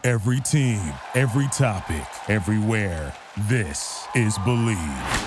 Every team, every topic, everywhere. This is Believe.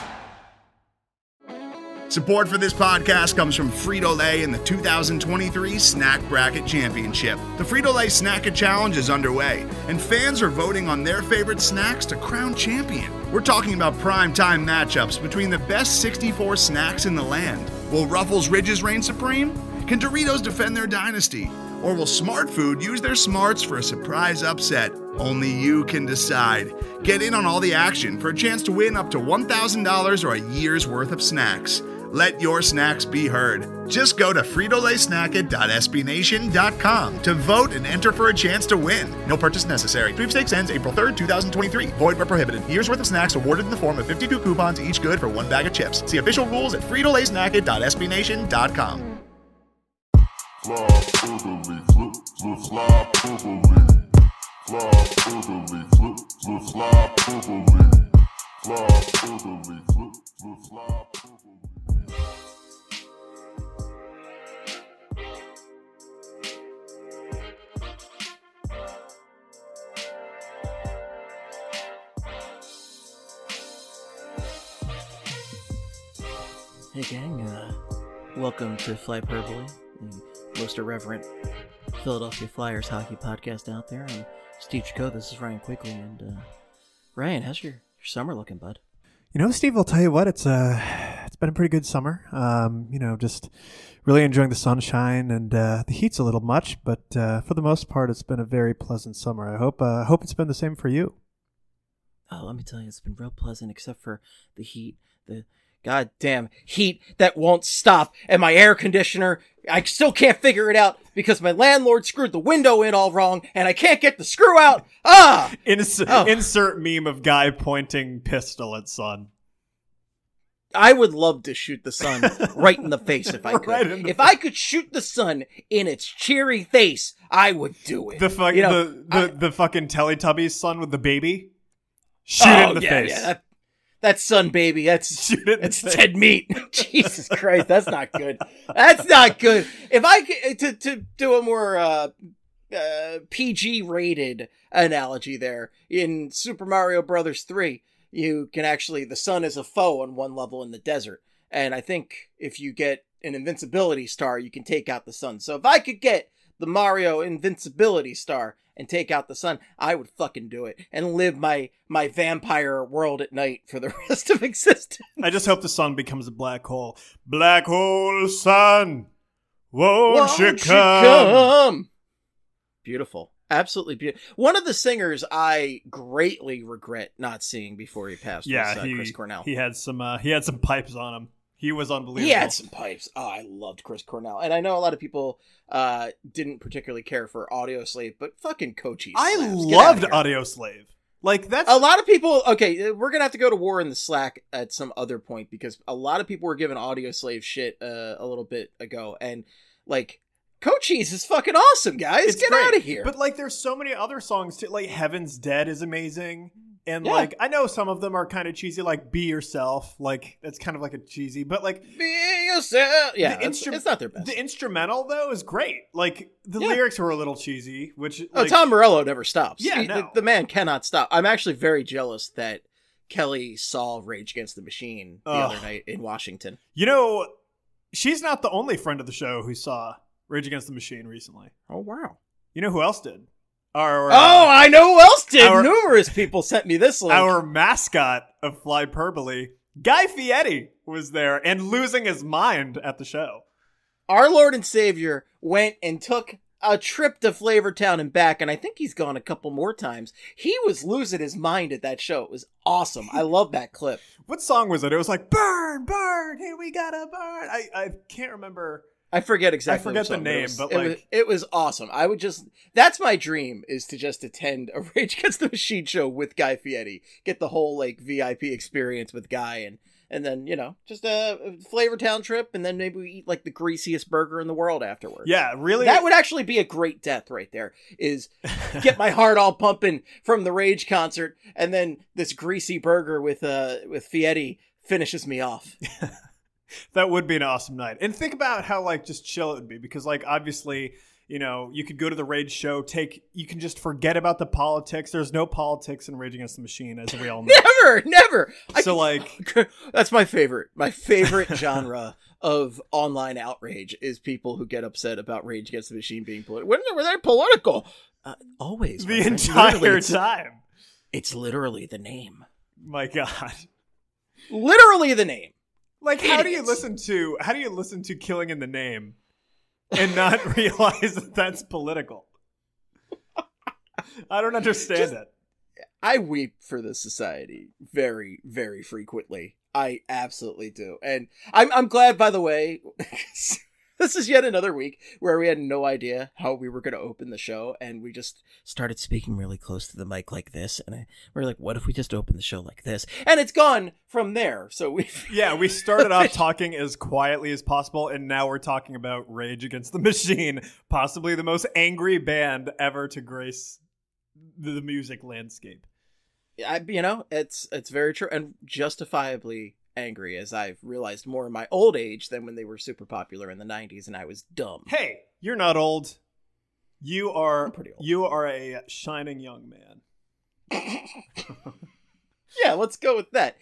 Support for this podcast comes from Frito-Lay and the 2023 Snack Bracket Championship. The Frito-Lay Snack-It Challenge is underway, and fans are voting on their favorite snacks to crown champion. We're talking about prime-time matchups between the best 64 snacks in the land. Will Ruffles Ridges reign supreme? Can Doritos defend their dynasty? Or will Smart Food use their smarts for a surprise upset? Only you can decide. Get in on all the action for a chance to win up to $1,000 or a year's worth of snacks. Let your snacks be heard. Just go to fritolaysnacket.sbnation.com to vote and enter for a chance to win. No purchase necessary. Sweepstakes ends April 3rd, 2023. Void where prohibited. Year's worth of snacks awarded in the form of 52 coupons, each good for one bag of chips. See official rules at fritolaysnacket.sbnation.com. Fly boogaloo, flip, flip, fly boogaloo. Fly boogaloo, flip, flip, fly boogaloo. Fly boogaloo, flip, flip, fly boogaloo. Hey gang, welcome to Flyperbole, the most irreverent Philadelphia Flyers hockey podcast out there. I'm Steve Chico, this is Ryan Quigley, and Ryan, how's your summer looking, bud? You know, Steve, I'll tell you what, it's been a pretty good summer. Just really enjoying the sunshine, and the heat's a little much, but for the most part, it's been a very pleasant summer. I hope it's been the same for you. Oh, let me tell you, it's been real pleasant, except for the heat, the goddamn heat that won't stop, and my air conditioner, I still can't figure it out because my landlord screwed the window in all wrong, and I can't get the screw out. Insert meme of guy pointing pistol at sun. I would love to shoot the sun right in the face if I could. If I could shoot the sun in its cheery face, I would do it. The fucking Teletubbies son with the baby. Shoot it in the face. Yeah, that's sun baby. That's dead meat. Jesus Christ, that's not good. That's not good. If I could to do a more PG rated analogy there, in Super Mario Brothers 3, you can actually, the sun is a foe on one level in the desert, and I think if you get an invincibility star, you can take out the sun. So if I could get the Mario invincibility star and take out the sun, I would fucking do it and live my vampire world at night for the rest of existence. I just hope the sun becomes a black hole. Black hole sun, won't you come? Beautiful. Absolutely beautiful. One of the singers I greatly regret not seeing before he passed was Chris Cornell. He had some pipes on him. He was unbelievable. He had some pipes. Oh, I loved Chris Cornell. And I know a lot of people didn't particularly care for Audioslave, but fucking Cochise. I loved Audioslave. Like, that's... A lot of people... Okay, we're going to have to go to war in the Slack at some other point, because a lot of people were giving Audioslave shit a little bit ago. And, like, Cochise is fucking awesome, guys. Get out of here. But, like, there's so many other songs, too. Like, Heaven's Dead is amazing. And, like, I know some of them are kind of cheesy, like Be Yourself. Like, that's kind of like a cheesy, but, like... Be Yourself! Yeah, it's not their best. The instrumental, though, is great. Like, the lyrics were a little cheesy, which... Tom Morello never stops. Yeah, the man cannot stop. I'm actually very jealous that Kelly saw Rage Against the Machine the other night in Washington. You know, she's not the only friend of the show who saw Rage Against the Machine recently. Oh, wow. You know who else did? I know who else did. Numerous people sent me this link. Our mascot of Flyperbole, Guy Fieri, was there and losing his mind at the show. Our Lord and Savior went and took a trip to Flavortown and back, and I think he's gone a couple more times. He was losing his mind at that show. It was awesome. I love that clip. What song was it? It was like, burn, burn, here we gotta burn. I can't remember. I forget exactly. I forget the name, but it was awesome. That's my dream, is to just attend a Rage Against the Machine show with Guy Fieri, get the whole like VIP experience with Guy, and then just a Flavortown trip, and then maybe we eat like the greasiest burger in the world afterwards. Yeah, really. That would actually be a great death right there. Is get my heart all pumping from the Rage concert, and then this greasy burger with Fieri finishes me off. That would be an awesome night. And think about how, like, just chill it would be. Because, like, obviously, You know, you could go to the Rage show, you can just forget about the politics. There's no politics in Rage Against the Machine, as we all know. Never. So that's my favorite. My favorite genre of online outrage is people who get upset about Rage Against the Machine being political. When were they political? Always. The entire time. It's literally the name. My God. Literally the name. Like, how do you listen to Killing in the Name and not realize that that's political? I don't understand it. I weep for this society very, very frequently. I absolutely do. And I'm glad, by the way, this is yet another week where we had no idea how we were going to open the show, and we just started speaking really close to the mic like this, and we were like, what if we just open the show like this? And it's gone from there. So we started off talking as quietly as possible, and now we're talking about Rage Against the Machine, possibly the most angry band ever to grace the music landscape. It's very true, and justifiably angry, as I've realized more in my old age than when they were super popular in the 90s and I was dumb. Hey, you're not old. I'm pretty old. You are a shining young man. Yeah, let's go with that.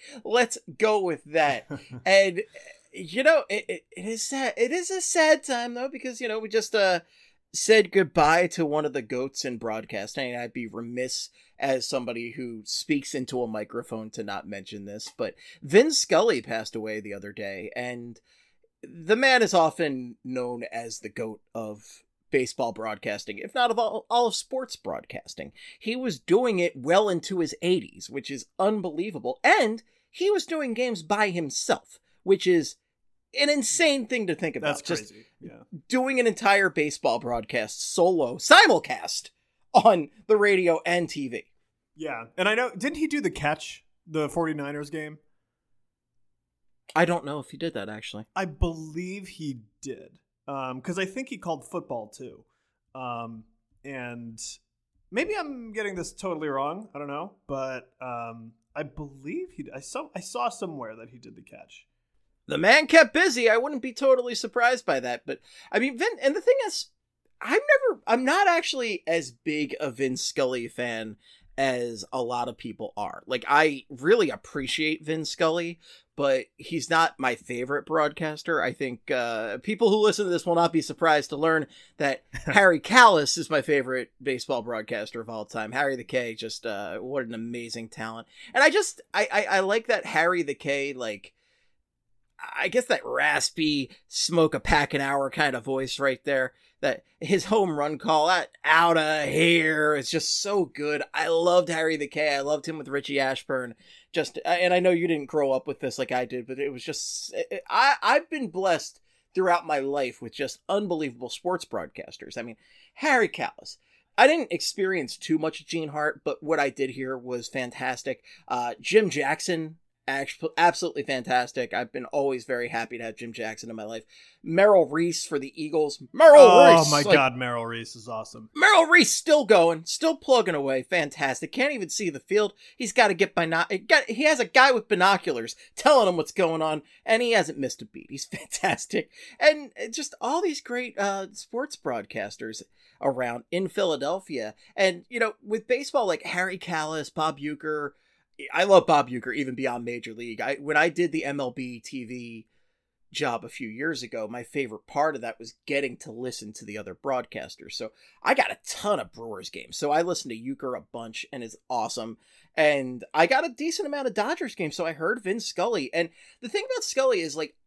And it is sad. It is a sad time though, because we just said goodbye to one of the goats in broadcasting. I'd be remiss as somebody who speaks into a microphone to not mention this, but Vin Scully passed away the other day, and the man is often known as the GOAT of baseball broadcasting, if not of all of sports broadcasting. He was doing it well into his 80s, which is unbelievable, and he was doing games by himself, which is an insane thing to think about. That's crazy. Yeah. Doing an entire baseball broadcast solo, simulcast on the radio and TV. Yeah. And I know, didn't he do the 49ers game? I don't know if he did that, actually. I believe he did. Because I think he called football too. And maybe I'm getting this totally wrong. I don't know. But I believe I saw somewhere that he did the catch. The man kept busy. I wouldn't be totally surprised by that. But I mean, and the thing is, I'm not actually as big a Vin Scully fan as a lot of people are. Like, I really appreciate Vin Scully, but he's not my favorite broadcaster. I think people who listen to this will not be surprised to learn that Harry Kalas is my favorite baseball broadcaster of all time. Harry the K, just what an amazing talent. And I like that Harry the K, like, I guess that raspy, smoke a pack an hour kind of voice right there. That his home run call, that out of here, is just so good. I loved Harry the K. I loved him with Richie Ashburn. And I know you didn't grow up with this like I did, but it was just, I've been blessed throughout my life with just unbelievable sports broadcasters. I mean, Harry Kalas. I didn't experience too much Gene Hart, but what I did hear was fantastic. Jim Jackson, absolutely fantastic. I've been always very happy to have Jim Jackson in my life. Merrill Reese for the Eagles. Reese. Oh my God, Merrill Reese is awesome. Merrill Reese still going, still plugging away. Fantastic. Can't even see the field. He's got to get he has a guy with binoculars telling him what's going on, and he hasn't missed a beat. He's fantastic. And just all these great sports broadcasters around in Philadelphia. And, with baseball, like Harry Kalas, Bob Uecker. I love Bob Uecker even beyond Major League. When I did the MLB TV job a few years ago, my favorite part of that was getting to listen to the other broadcasters. So I got a ton of Brewers games. So I listened to Uecker a bunch, and it's awesome. And I got a decent amount of Dodgers games. So I heard Vin Scully. And the thing about Scully is, like,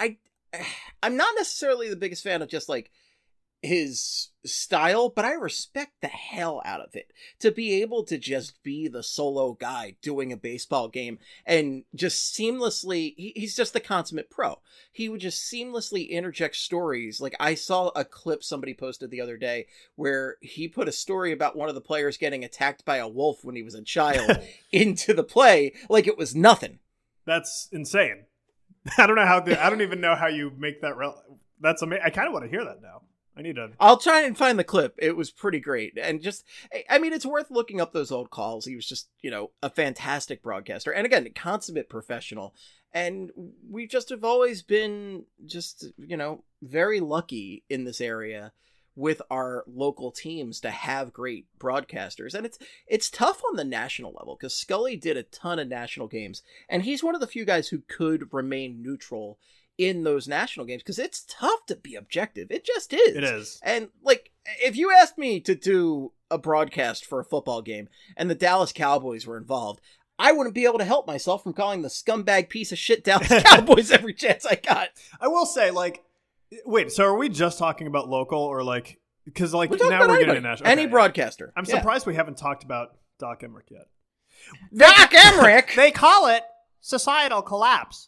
I'm not necessarily the biggest fan of just like his style, but I respect the hell out of it to be able to just be the solo guy doing a baseball game and just seamlessly, he's just the consummate pro. He would just seamlessly interject stories. Like, I saw a clip somebody posted the other day where he put a story about one of the players getting attacked by a wolf when he was a child into the play like it was nothing. That's insane. I don't even know how you make that that's amazing. I kind of want to hear that now. I'll try and find the clip. It was pretty great. And just, I mean, it's worth looking up those old calls. He was just, a fantastic broadcaster. And again, consummate professional. And we just have always been just, very lucky in this area with our local teams to have great broadcasters. And it's tough on the national level because Scully did a ton of national games, and he's one of the few guys who could remain neutral in those national games because it's tough to be objective. It just is. It is. And like, if you asked me to do a broadcast for a football game and the Dallas Cowboys were involved, I wouldn't be able to help myself from calling the scumbag piece of shit Dallas Cowboys every chance I got. I will say, like, wait, so are we just talking about local or like, because like now we're getting national? Any broadcaster. I'm surprised we haven't talked about Doc Emmerich yet. Doc Emmerich! They call it societal collapse.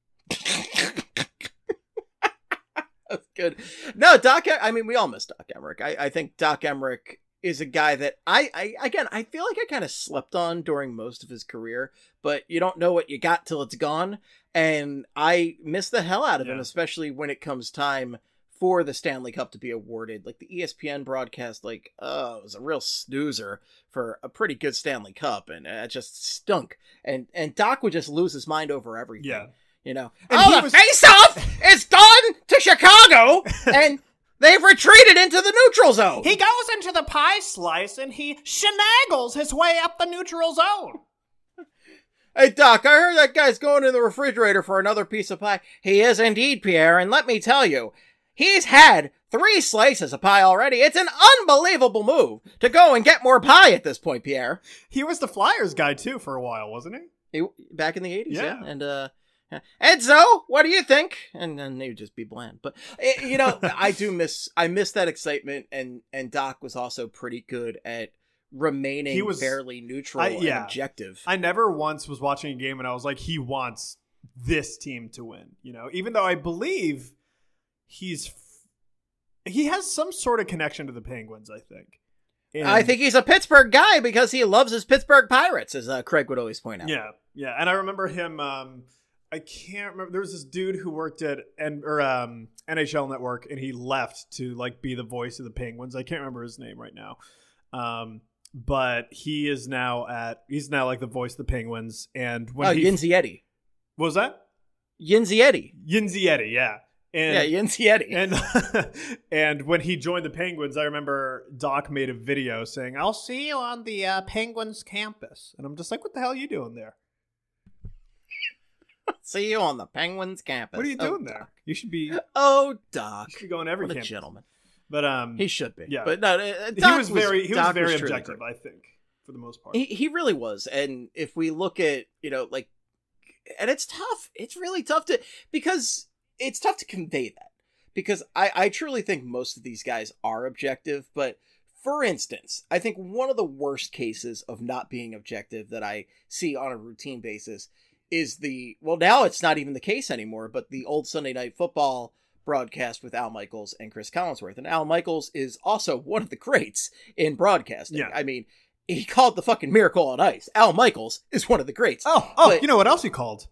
That's good. No, I mean, we all miss Doc Emmerich. I think Doc Emmerich is a guy that I feel like I kind of slept on during most of his career, but you don't know what you got till it's gone. And I miss the hell out of him, especially when it comes time for the Stanley Cup to be awarded. Like the ESPN broadcast, like, it was a real snoozer for a pretty good Stanley Cup, and it just stunk. And Doc would just lose his mind over everything. Yeah. You know, the face-off is gone to Chicago, and they've retreated into the neutral zone. He goes into the pie slice, and he shenagles his way up the neutral zone. Hey, Doc, I heard that guy's going in the refrigerator for another piece of pie. He is indeed, Pierre, and let me tell you, he's had 3 slices of pie already. It's an unbelievable move to go and get more pie at this point, Pierre. He was the Flyers guy, too, for a while, wasn't he? Back in the 80s, yeah. And, Edzo, what do you think? And then they would just be bland. But you know, I miss that excitement, and Doc was also pretty good at remaining fairly neutral and objective. I never once was watching a game and I was like, he wants this team to win, you know, even though I believe he has some sort of connection to the Penguins, I think. And I think he's a Pittsburgh guy because he loves his Pittsburgh Pirates, as Craig would always point out. Yeah. And I remember him, I can't remember. There was this dude who worked at NHL Network, and he left to like be the voice of the Penguins. I can't remember his name right now, but he's now like the voice of the Penguins. And when Yinzietti. What was that? Yinzietti, yeah. And, Yinzietti. And when he joined the Penguins, I remember Doc made a video saying, "I'll see you on the Penguins campus," and I'm just like, "What the hell are you doing there?" See you on the Penguins campus. What are you doing there? You should be. Oh, Doc. You should be going every what campus. A gentleman. But he should be. Yeah. But no, he was very objective, I think, for the most part. He really was. And if we look at, you know, like, and it's tough. It's really tough because it's tough to convey that. Because I truly think most of these guys are objective. But for instance, I think one of the worst cases of not being objective that I see on a routine basis is now it's not even the case anymore, but the old Sunday Night Football broadcast with Al Michaels and Chris Collinsworth. And Al Michaels is also one of the greats in broadcasting. Yeah. I mean, he called the fucking Miracle on Ice. Al Michaels is one of the greats. But, you know what else he called?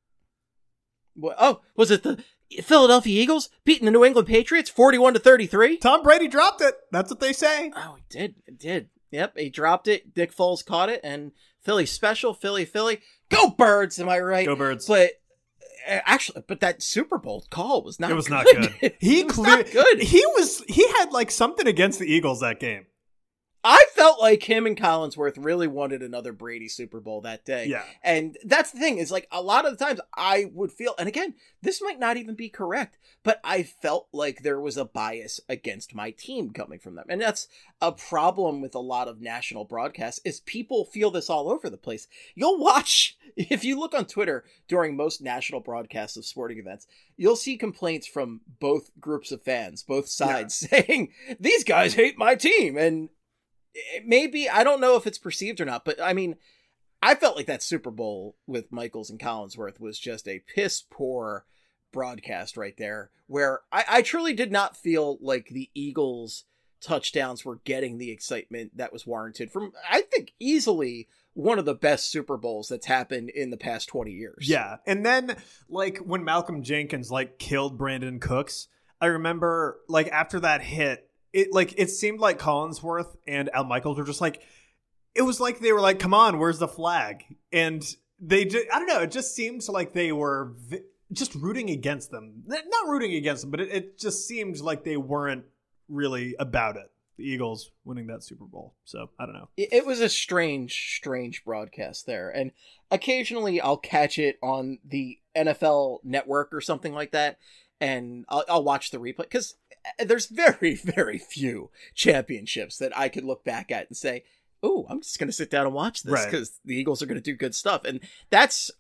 Was it the Philadelphia Eagles beating the New England Patriots 41-33? Tom Brady dropped it. That's what they say. Oh, he did. Yep, he dropped it. Dick Foles caught it, and Philly special, Philly. Go Birds, am I right? Go Birds. But actually, that Super Bowl call was not good. It was not good. Not good. He had like something against the Eagles that game. I felt like him and Collinsworth really wanted another Brady Super Bowl that day. Yeah. And that's the thing is like a lot of the times I would feel, and again, this might not even be correct, but I felt like there was a bias against my team coming from them. And that's a problem with a lot of national broadcasts is people feel this all over the place. You'll watch, if you look on Twitter during most national broadcasts of sporting events, you'll see complaints from both groups of fans, both sides saying, these guys hate my team. And maybe, I don't know if it's perceived or not, but I mean, I felt like that Super Bowl with Michaels and Collinsworth was just a piss poor broadcast right there, where I truly did not feel like the Eagles touchdowns were getting the excitement that was warranted from, I think, easily one of the best Super Bowls that's happened in the past 20 years. Yeah. And then like when Malcolm Jenkins like killed Brandon Cooks, I remember like after that hit, it seemed like Collinsworth and Al Michaels were just like, it was like they were like, come on, where's the flag? And they just, I don't know, it just seemed like they were just rooting against them. Not rooting against them, but it just seemed like they weren't really about it. The Eagles winning that Super Bowl. So I don't know. It was a strange broadcast there. And occasionally I'll catch it on the NFL Network or something like that. And I'll watch the replay because there's very, very few championships that I could look back at and say, oh, I'm just going to sit down and watch this because the Eagles are going to do good stuff. And that's,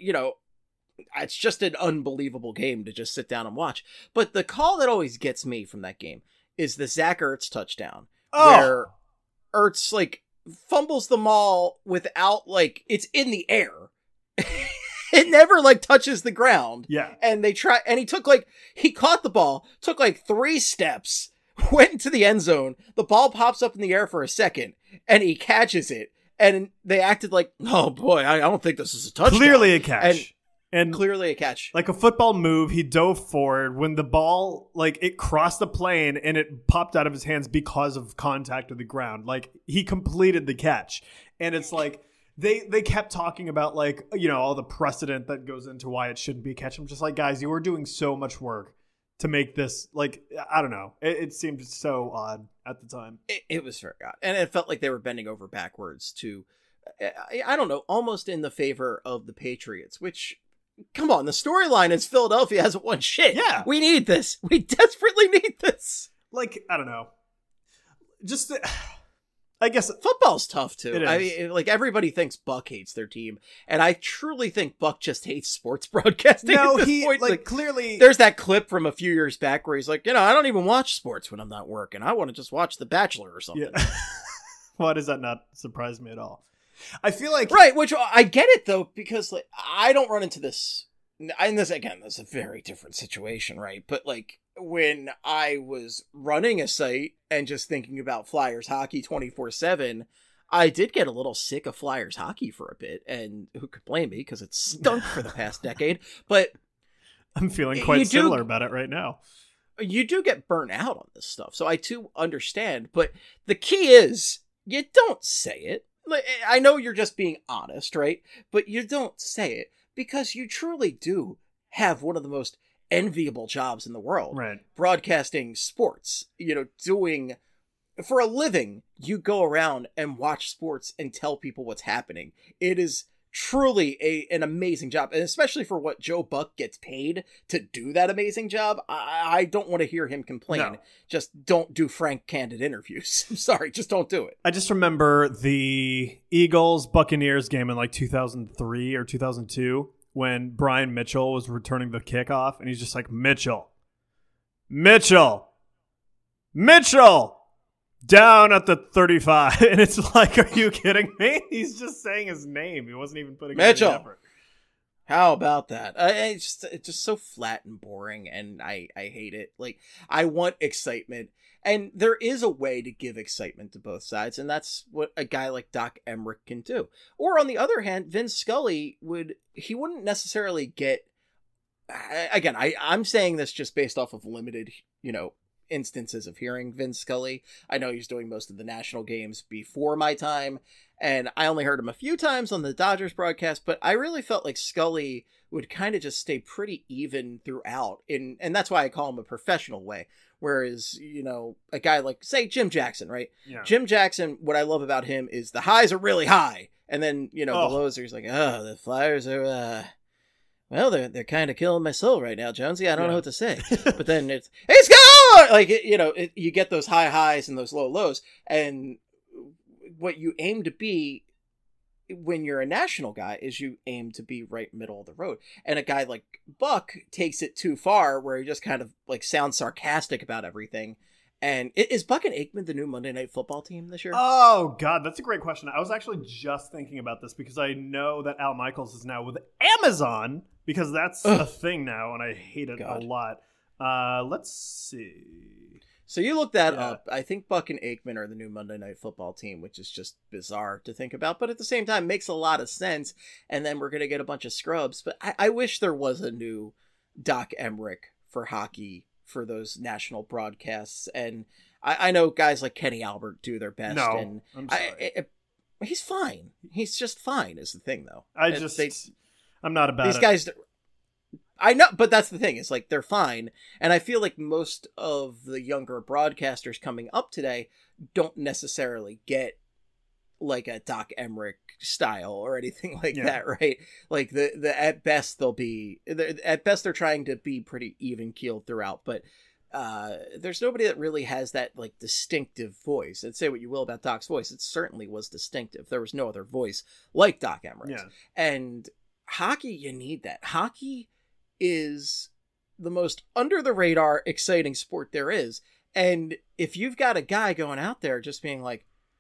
it's just an unbelievable game to just sit down and watch. But the call that always gets me from that game is the Zach Ertz touchdown, where Ertz fumbles the ball without it's in the air. It never touches the ground. Yeah. And he he caught the ball, took 3 steps, went into the end zone. The ball pops up in the air for a second and he catches it. And they acted like, oh boy, I don't think this is a touchdown. Clearly a catch. And clearly a catch. Like a football move, he dove forward when the ball, it crossed the plane and it popped out of his hands because of contact with the ground. He completed the catch. And it's they kept talking about all the precedent that goes into why it shouldn't be a catch. I'm just guys, you were doing so much work to make this, I don't know. It seemed so odd at the time. It was very odd. And it felt like they were bending over backwards to, I don't know, almost in the favor of the Patriots, which, come on, the storyline is Philadelphia hasn't won shit. Yeah. We need this. We desperately need this. I don't know. Just, I guess football's tough too. It is. I mean, everybody thinks Buck hates their team, and I truly think Buck just hates sports broadcasting. No, at this point. Clearly, there's that clip from a few years back where he's like, I don't even watch sports when I'm not working. I want to just watch The Bachelor or something. Yeah. Why does that not surprise me at all? I feel right, which I get it though, because I don't run into this. And this is a very different situation, right? But when I was running a site and just thinking about Flyers hockey 24/7, I did get a little sick of Flyers hockey for a bit, and who could blame me because it stunk for the past decade. But I'm feeling quite similar about it right now. You do get burnt out on this stuff, so I too understand. But the key is you don't say it. I know you're just being honest, right? But you don't say it because you truly do have one of the most enviable jobs in the world. Right. Broadcasting sports, doing for a living, you go around and watch sports and tell people what's happening. It is truly an amazing job, and especially for what Joe Buck gets paid to do that amazing job. I don't want to hear him complain. No. Just don't do frank, candid interviews. I'm sorry, just don't do it. I just remember the Eagles-Buccaneers game in 2003 or 2002 when Brian Mitchell was returning the kickoff, and he's just like, Mitchell, down at the 35. And it's like, are you kidding me? He's just saying his name. He wasn't even putting in any effort. How about that? It's just so flat and boring, and I hate it. I want excitement, and there is a way to give excitement to both sides, and that's what a guy like Doc Emrick can do. Or on the other hand, Vin Scully wouldn't necessarily get. Again, I'm saying this just based off of limited, instances of hearing Vin Scully. I know he's doing most of the national games before my time, and I only heard him a few times on the Dodgers broadcast, but I really felt like Scully would kind of just stay pretty even throughout, and that's why I call him a professional way. Whereas, a guy like, say, Jim Jackson, right? Yeah. Jim Jackson, what I love about him is the highs are really high, and then, the lows are just the Flyers are, well, they're kind of killing my soul right now, Jonesy. I don't know what to say. But then it's go! You get those high highs and those low lows. And what you aim to be when you're a national guy is you aim to be right middle of the road. And a guy like Buck takes it too far where he just kind of sounds sarcastic about everything. And is Buck and Aikman the new Monday Night Football team this year? Oh, God, that's a great question. I was actually just thinking about this because I know that Al Michaels is now with Amazon because that's a thing now, and I hate it a lot. Let's see. So you look that up. I think Buck and Aikman are the new Monday Night Football team, which is just bizarre to think about, but at the same time makes a lot of sense. And then we're going to get a bunch of scrubs. But I wish there was a new Doc Emrick for hockey for those national broadcasts. And I know guys like Kenny Albert do their best. No, and I'm sorry. He's fine. He's just fine is the thing, though. I'm not about these it. guys. I know, but that's the thing. It's like they're fine. And I feel like most of the younger broadcasters coming up today don't necessarily get like a Doc Emmerich style or anything like that, right? Like the at best they're trying to be pretty even keeled throughout, but there's nobody that really has that like distinctive voice. And say what you will about Doc's voice, it certainly was distinctive. There was no other voice like Doc Emmerich. And hockey, you need that. Hockey is the most under the radar exciting sport there is. And if you've got a guy going out there just being like,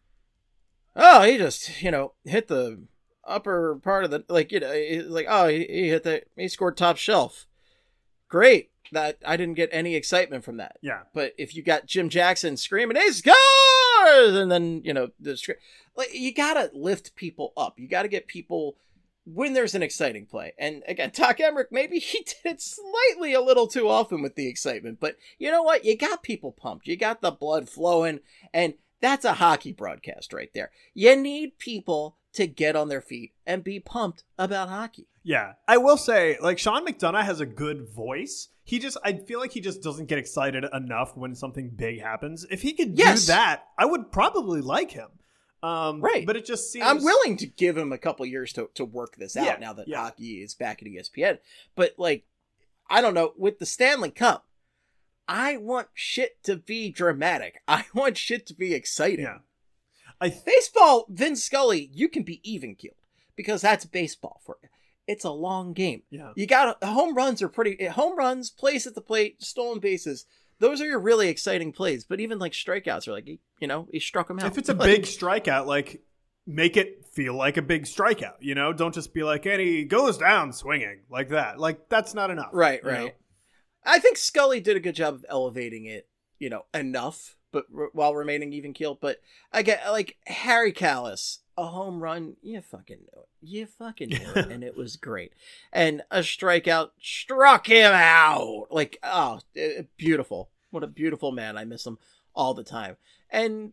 oh, he just, hit the upper part of the, like, like, oh, he hit he scored top shelf. Great. That I didn't get any excitement from that. Yeah. But if you got Jim Jackson screaming, he scores! And then, like, you gotta lift people up. You gotta get people when there's an exciting play. And again, Doc Emmerich, maybe he did it slightly a little too often with the excitement, but you know what? You got people pumped. You got the blood flowing, and that's a hockey broadcast right there. You need people to get on their feet and be pumped about hockey. Yeah. I will say, like, Sean McDonough has a good voice. I feel like he just doesn't get excited enough when something big happens. If he could do that, I would probably like him. Right. But it just seems... I'm willing to give him a couple years to work this out now that hockey is back at ESPN. But, like, I don't know, with the Stanley Cup, I want shit to be dramatic. I want shit to be exciting. Yeah. Baseball, Vin Scully, you can be even-keeled because that's baseball for you. It's a long game. Yeah. You got home runs, plays at the plate, stolen bases. Those are your really exciting plays. But even like strikeouts are like, he struck him out. If it's a big strikeout, like, make it feel like a big strikeout, Don't just be like, and he goes down swinging like that. Like, that's not enough. Right. I think Scully did a good job of elevating it, enough, but while remaining even keeled. But again, like Harry Kalas, a home run, you fucking knew it. And it was great. And a strikeout struck him out. Like, oh, beautiful. What a beautiful man. I miss him all the time. And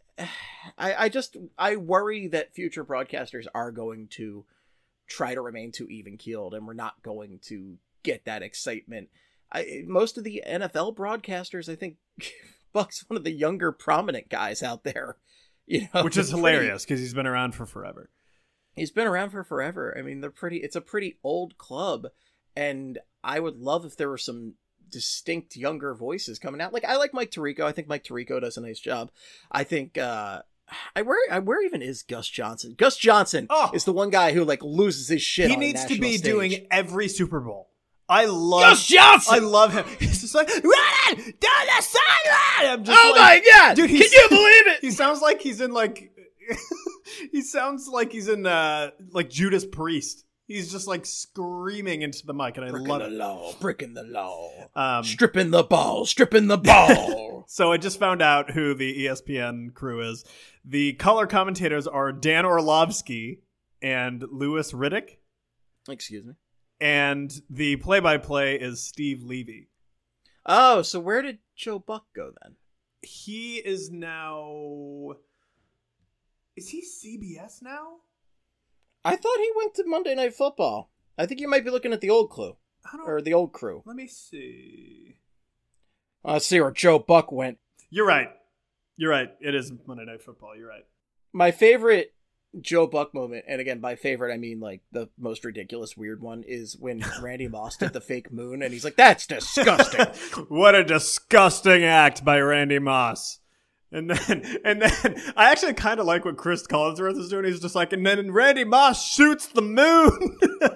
I worry that future broadcasters are going to try to remain too even keeled, and we're not going to get that excitement. Most of the NFL broadcasters, I think, Buck's one of the younger prominent guys out there. Which is hilarious because he's been around for forever. He's been around for forever. I mean, it's a pretty old club, and I would love if there were some distinct younger voices coming out. Like, I like Mike Tirico. I think Mike Tirico does a nice job. I think where even is Gus Johnson? Gus Johnson is the one guy who like loses his shit. He on needs to be stage. doing every Super Bowl. I love Gus Johnson. I love him. He's just like, run down the sideline. I'm just my god, dude! Can you believe it? He sounds like he's in like. He sounds like he's in like Judas Priest. He's just like screaming into the mic, and I love it. Breaking the law, stripping the ball. So I just found out who the ESPN crew is. The color commentators are Dan Orlovsky and Louis Riddick. Excuse me. And the play-by-play is Steve Levy. Oh, so where did Joe Buck go then? He is now... Is he CBS now? I thought he went to Monday Night Football. I think you might be looking at the old clue. Or the old crew. Let me see. Let's see where Joe Buck went. You're right. It is Monday Night Football. You're right. My favorite Joe Buck moment, and again, by favorite, I mean like the most ridiculous weird one, is when Randy Moss did the fake moon, and he's like, that's disgusting. What a disgusting act by Randy Moss. And then I actually kind of like what Chris Collinsworth is doing. He's just like, and then Randy Moss shoots the moon.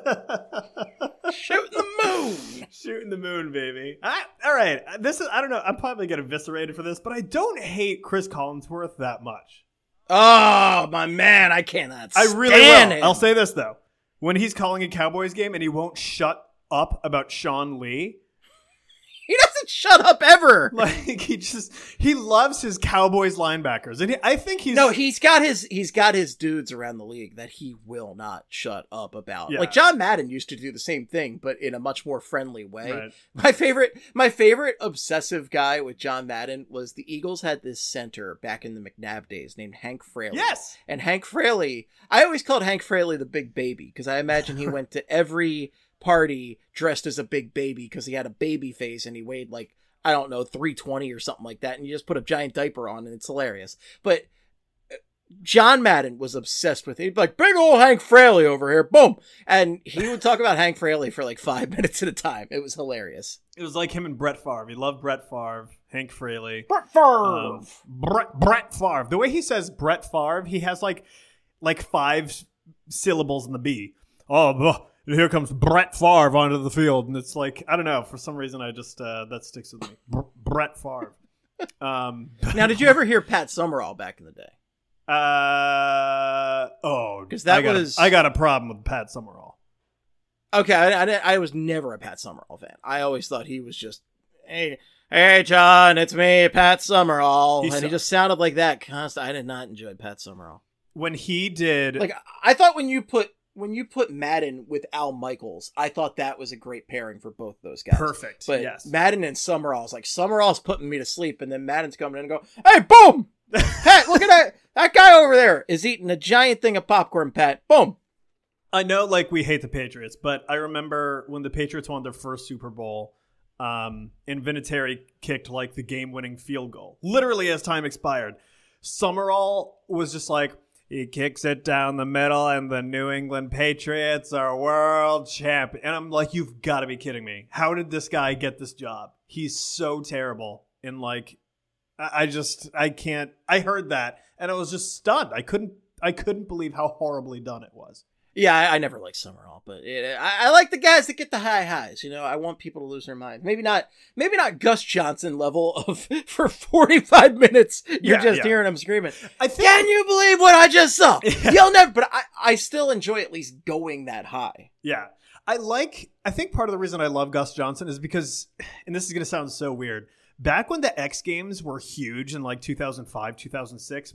Shooting the moon, baby. All right. I don't know. I'm probably getting eviscerated for this, but I don't hate Chris Collinsworth that much. Oh, my man. I cannot stand I really will. him. I'll say this, though. When he's calling a Cowboys game and he won't shut up about Sean Lee. He doesn't shut up ever. Like he loves his Cowboys linebackers, and I think he's got his dudes around the league that he will not shut up about. Yeah. Like John Madden used to do the same thing, but in a much more friendly way. Right. My favorite obsessive guy with John Madden was the Eagles had this center back in the McNabb days named Hank Fraley. Yes, and Hank Fraley, I always called Hank Fraley the big baby because I imagine he went to every party dressed as a big baby because he had a baby face and he weighed like, I don't know, 320 or something like that. And you just put a giant diaper on and it's hilarious. But John Madden was obsessed with it. He'd be like, big old Hank Fraley over here. Boom. And he would talk about Hank Fraley for like 5 minutes at a time. It was hilarious. It was like him and Brett Favre. He loved Brett Favre, Hank Fraley. Brett Favre. Brett Favre. The way he says Brett Favre, he has like 5 syllables in the B. Oh, here comes Brett Favre onto the field. And it's like, I don't know. For some reason, I just, that sticks with me. Brett Favre. Now, did you ever hear Pat Summerall back in the day? Because I got a problem with Pat Summerall. Okay, I was never a Pat Summerall fan. I always thought he was just, hey John, it's me, Pat Summerall, he just sounded like that constantly. I did not enjoy Pat Summerall when he did. Like, I thought when you put Madden with Al Michaels, I thought that was a great pairing for both those guys. Perfect. But yes. Madden and Summerall's like, Summerall's putting me to sleep, and then Madden's coming in and go, hey, boom! Pat, look at that. That guy over there is eating a giant thing of popcorn, Pat. Boom. I know, like, we hate the Patriots, but I remember when the Patriots won their first Super Bowl, and Vinatieri kicked, like, the game-winning field goal. Literally as time expired. Summerall was just like, he kicks it down the middle, and the New England Patriots are world champion. And I'm like, you've got to be kidding me. How did this guy get this job? He's so terrible. And, like, I can't. I heard that, and I was just stunned. I couldn't believe how horribly done it was. Yeah, I never liked Summerall, but I like the guys that get the high highs. You know, I want people to lose their minds. Maybe not Gus Johnson level of for 45 minutes. You're hearing him screaming. Can you believe what I just saw? Yeah. You'll never. But I still enjoy at least going that high. Yeah, I think part of the reason I love Gus Johnson is because, and this is going to sound so weird, back when the X Games were huge in like 2005, 2006,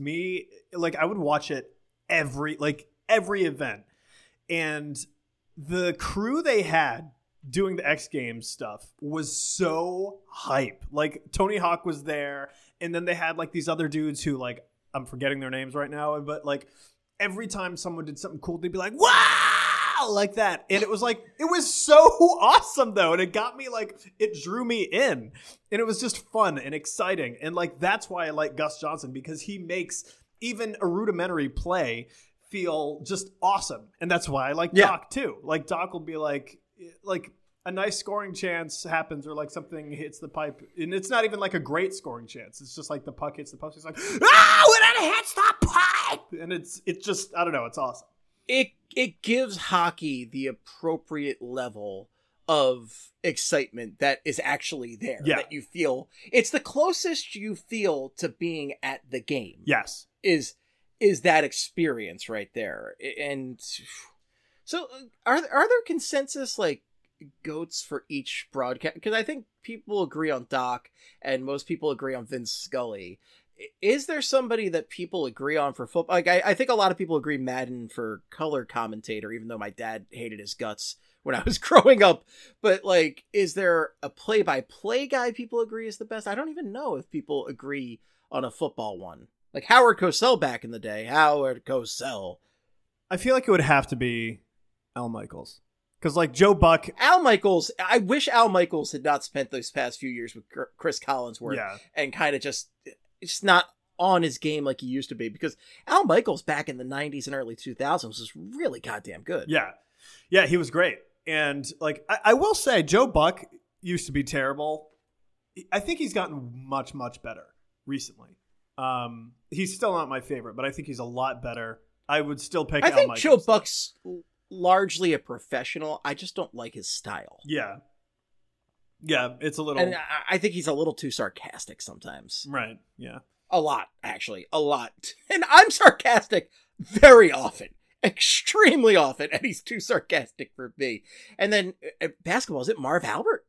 I would watch it every event. And the crew they had doing the X Games stuff was so hype. Like, Tony Hawk was there, and then they had like these other dudes who, like, I'm forgetting their names right now, but like every time someone did something cool, they'd be like, wow, like that. And it was so awesome though. And it got me, like, it drew me in, and it was just fun and exciting. And like, that's why I like Gus Johnson, because he makes even a rudimentary play feel just awesome. And that's why I like Doc too. Like, Doc will be like a nice scoring chance happens, or like something hits the pipe, and it's not even like a great scoring chance. It's just like the puck hits the post. He's like, when it hits the pipe, and it's just, I don't know. It's awesome. It gives hockey the appropriate level of excitement that is actually there. Yeah. That you feel. It's the closest you feel to being at the game. Yes. Is that experience right there. And so are there consensus like goats for each broadcast? Because I think people agree on Doc and most people agree on Vince Scully. Is there somebody that people agree on for football? Like, I think a lot of people agree Madden for color commentator, even though my dad hated his guts when I was growing up. But like, is there a play-by-play guy people agree is the best? I don't even know if people agree on a football one. Like Howard Cosell back in the day. Howard Cosell. I feel like it would have to be Al Michaels. Because, like, Joe Buck... Al Michaels, I wish Al Michaels had not spent those past few years with Chris Collinsworth. Yeah. And kind of just not on his game like he used to be. Because Al Michaels back in the 90s and early 2000s was really goddamn good. Yeah. Yeah, he was great. And, like, I will say, Joe Buck used to be terrible. I think he's gotten much, much better recently. He's still not my favorite, but I think he's a lot better. I would still pick Al Michaels. I think Joe Buck's largely a professional. I just don't like his style. Yeah. Yeah, it's a little... And I think he's a little too sarcastic sometimes. Right, yeah. A lot, actually. A lot. And I'm sarcastic very often. Extremely often. And he's too sarcastic for me. And then basketball, is it Marv Albert?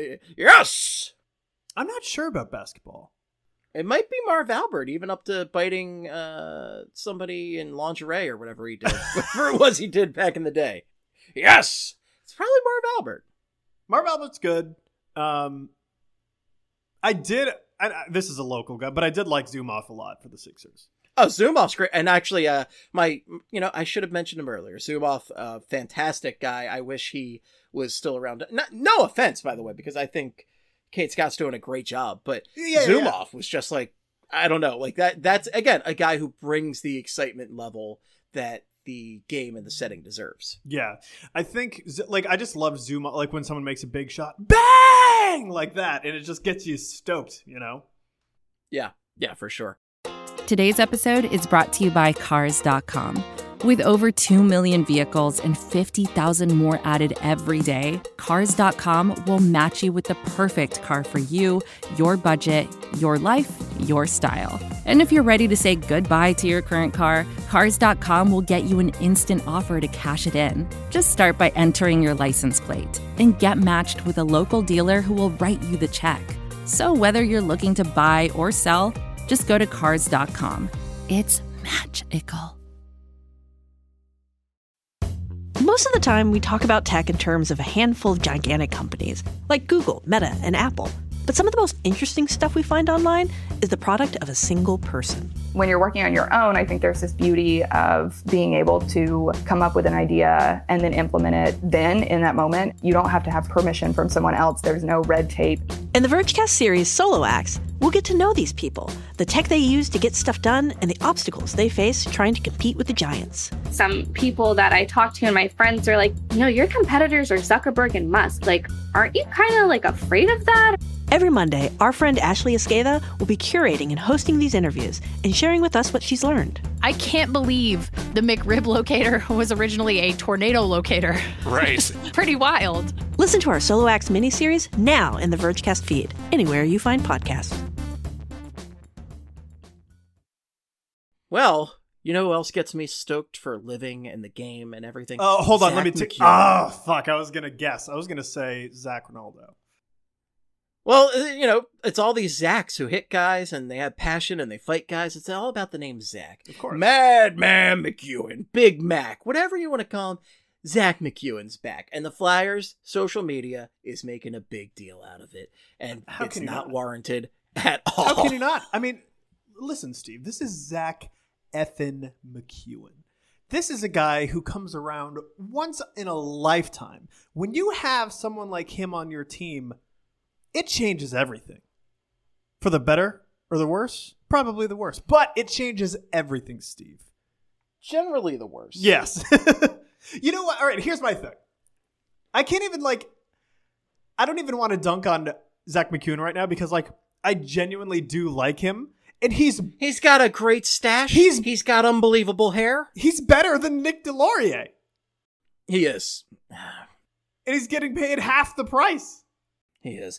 Yes! I'm not sure about basketball. It might be Marv Albert, even up to biting somebody in lingerie or whatever he did. Whatever it was he did back in the day. Yes! It's probably Marv Albert. Marv Albert's good. This is a local guy, but I did like Zumoff a lot for the Sixers. Oh, Zumoff's great. And actually, I should have mentioned him earlier. Zumoff, fantastic guy. I wish he was still around. No offense, by the way, because I think Kate Scott's doing a great job. But Zumoff was just like, I don't know, like that's, again, a guy who brings the excitement level that the game and the setting deserves. Yeah. I think, like, I just love Zumoff, like when someone makes a big shot, bang, like that, and it just gets you stoked, you know? Yeah, for sure. Today's episode is brought to you by Cars.com. With over 2 million vehicles and 50,000 more added every day, Cars.com will match you with the perfect car for you, your budget, your life, your style. And if you're ready to say goodbye to your current car, Cars.com will get you an instant offer to cash it in. Just start by entering your license plate and get matched with a local dealer who will write you the check. So whether you're looking to buy or sell, just go to Cars.com. It's magical. Most of the time, we talk about tech in terms of a handful of gigantic companies, like Google, Meta, and Apple. But some of the most interesting stuff we find online is the product of a single person. When you're working on your own, I think there's this beauty of being able to come up with an idea and then implement it then in that moment. You don't have to have permission from someone else. There's no red tape. In the Vergecast series Solo Acts, we'll get to know these people, the tech they use to get stuff done, and the obstacles they face trying to compete with the giants. Some people that I talk to and my friends are like, your competitors are Zuckerberg and Musk. Like, aren't you kind of like afraid of that? Every Monday, our friend Ashley Esqueda will be curating and hosting these interviews and sharing with us what she's learned. I can't believe the McRib locator was originally a tornado locator. Right. Pretty wild. Listen to our Solo Acts miniseries now in the Vergecast feed, anywhere you find podcasts. Well, you know who else gets me stoked for living and the game and everything? Oh, hold on. Zach Let me take. McEwen. Oh, fuck. I was going to guess. I was going to say Zach Ronaldo. Well, it's all these Zachs who hit guys and they have passion and they fight guys. It's all about the name Zach. Of course. Madman McEwen, Big Mac, whatever you want to call him. Zach McEwen's back. And the Flyers, social media, is making a big deal out of it. And it's not warranted at all. How can you not? I mean, listen, Steve, this is Zach effing McEwen. This is a guy who comes around once in a lifetime. When you have someone like him on your team, it changes everything. For the better or the worse? Probably the worse. But it changes everything, Steve. Generally the worst. Yes. You know what? All right, here's my thing. I can't even, I don't even want to dunk on Zach McEwen right now because, I genuinely do like him. And he's got a great stash. He's got unbelievable hair. He's better than Nick Delorier. He is. And he's getting paid half the price. He is.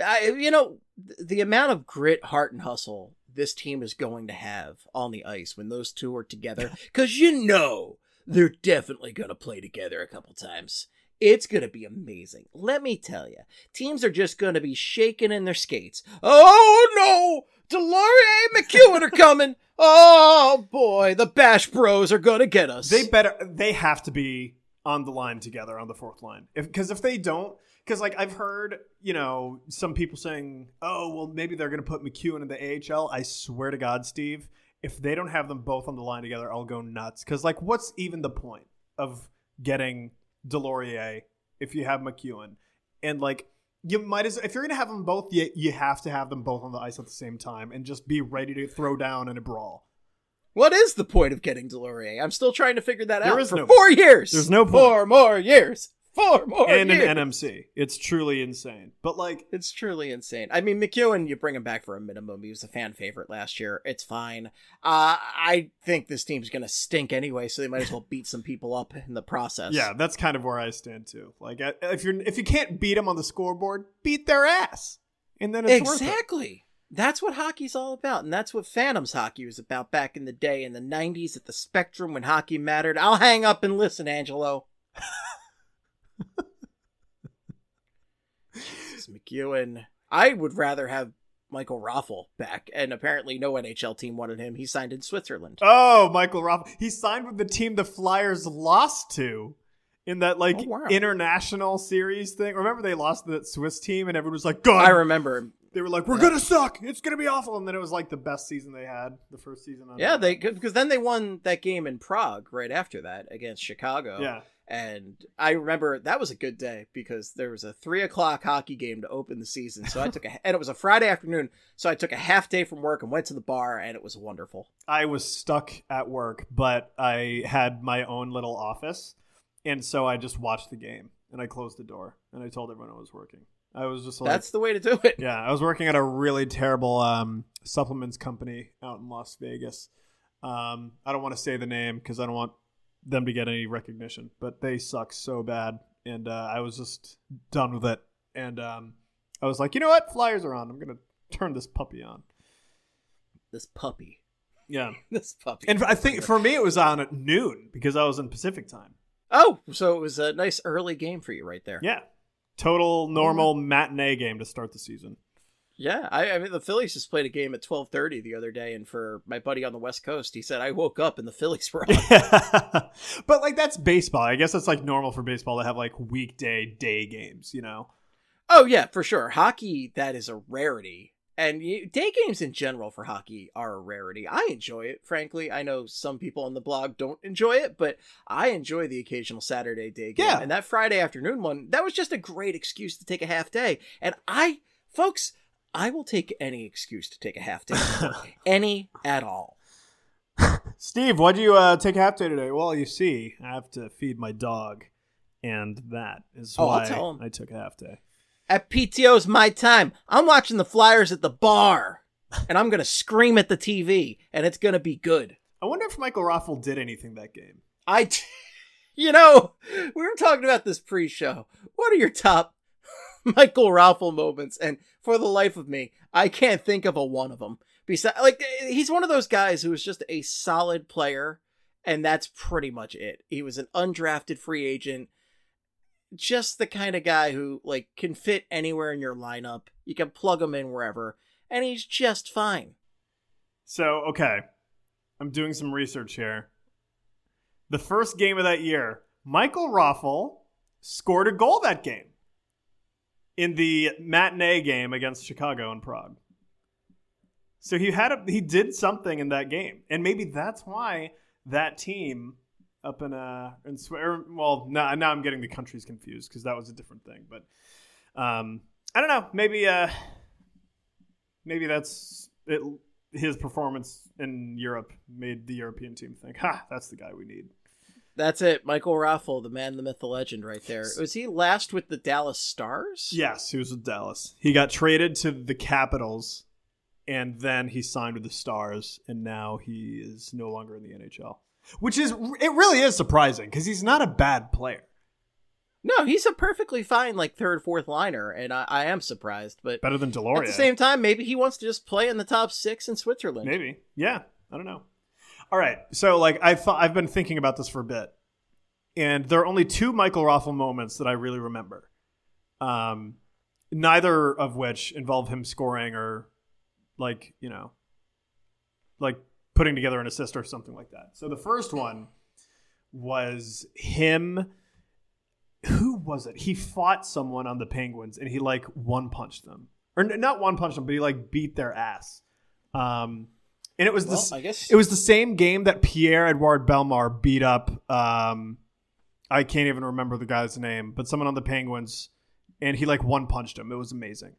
The amount of grit, heart, and hustle this team is going to have on the ice when those two are together, because they're definitely going to play together a couple times. It's going to be amazing. Let me tell you, teams are just going to be shaking in their skates. Oh, no! Delorier and McEwen are coming. Oh, boy. The Bash Bros are going to get us. They have to be on the line together on the fourth line. Because if they don't, because I've heard, some people saying, oh, well, maybe they're going to put McEwen in the AHL. I swear to God, Steve, if they don't have them both on the line together, I'll go nuts. Because, what's even the point of getting Delorier if you have McEwen? And, you might as if you're going to have them both, you have to have them both on the ice at the same time and just be ready to throw down in a brawl. What is the point of getting Delorier? I'm still trying to figure that out. There is for no 4 years. There's no point. 4 more years. 4 more and years. an NMC. It's truly insane. But it's truly insane. I mean, McEwen, you bring him back for a minimum. He was a fan favorite last year. It's fine. I think this team's going to stink anyway, so they might as well beat some people up in the process. Yeah, that's kind of where I stand too. If you can't beat them on the scoreboard, beat their ass. And then it's exactly. Worth it. That's what hockey's all about, and that's what Phantoms hockey was about back in the day in the 90s at the Spectrum when hockey mattered. I'll hang up and listen, Angelo. Jesus, McEwen. I would rather have Michael Raffl back, and apparently no NHL team wanted him. He signed in Switzerland. Oh, Michael Raffl. He signed with the team the Flyers lost to in that international series thing. Remember they lost to that Swiss team and everyone was like, God. I remember. They were like, we're going to suck. It's going to be awful. And then it was like the best season they had, the first season. Yeah, because then they won that game in Prague right after that against Chicago. Yeah. And I remember that was a good day because there was a 3:00 hockey game to open the season. So I took and it was a Friday afternoon. So I took a half day from work and went to the bar, and it was wonderful. I was stuck at work, but I had my own little office. And so I just watched the game and I closed the door and I told everyone I was working. I was just like, that's the way to do it. Yeah, I was working at a really terrible supplements company out in Las Vegas. I don't want to say the name because I don't want them to get any recognition, but they suck so bad. And I was just done with it. And I was like, you know what? Flyers are on. I'm going to turn this puppy on. This puppy. Yeah. This puppy. And I think for me it was on at noon because I was in Pacific time. Oh, so it was a nice early game for you right there. Yeah. Total normal matinee game to start the season. Yeah, I mean the Phillies just played a game at 12:30 the other day, and for my buddy on the West Coast, he said I woke up and the Phillies were on. But like that's baseball. I guess that's like normal for baseball to have like weekday day games, you know? Oh yeah, for sure. Hockey, that is a rarity. And day games in general for hockey are a rarity. I enjoy it, frankly. I know some people on the blog don't enjoy it, but I enjoy the occasional Saturday day game. Yeah. And that Friday afternoon one, that was just a great excuse to take a half day. And folks, I will take any excuse to take a half day. Any at all. Steve, why'd you take a half day today? Well, you see, I have to feed my dog. And that is why I took a half day. At PTO's my time. I'm watching the Flyers at the bar, and I'm going to scream at the TV, and it's going to be good. I wonder if Michael Raffl did anything that game. We were talking about this pre-show. What are your top Michael Raffl moments? And for the life of me, I can't think of one of them. Besides, he's one of those guys who is just a solid player, and that's pretty much it. He was an undrafted free agent. Just the kind of guy who can fit anywhere in your lineup. You can plug him in wherever, and he's just fine. So, okay, I'm doing some research here. The first game of that year, Michael Raffl scored a goal that game in the matinee game against Chicago and Prague. So he did something in that game, and maybe that's why that team. Up now I'm getting the countries confused because that was a different thing. But I don't know. Maybe that's it. His performance in Europe made the European team think, that's the guy we need. That's it. Michael Raffl, the man, the myth, the legend right there. Was he last with the Dallas Stars? Yes, he was with Dallas. He got traded to the Capitals, and then he signed with the Stars, and now he is no longer in the NHL. Which it really is surprising because he's not a bad player. No, he's a perfectly fine third, fourth liner, and I am surprised. But better than Deloria. At the same time, maybe he wants to just play in the top 6 in Switzerland. Maybe, yeah, I don't know. All right, so I've been thinking about this for a bit, and there are only 2 Michael Raffl moments that I really remember. Neither of which involve him scoring or putting together an assist or something like that. So the first one was him. Who was it? He fought someone on the Penguins and he one-punched them. Or not one-punched them, but he beat their ass. And it was it was the same game that Pierre-Edouard Bellemare beat up. I can't even remember the guy's name, but someone on the Penguins, and he one-punched him. It was amazing.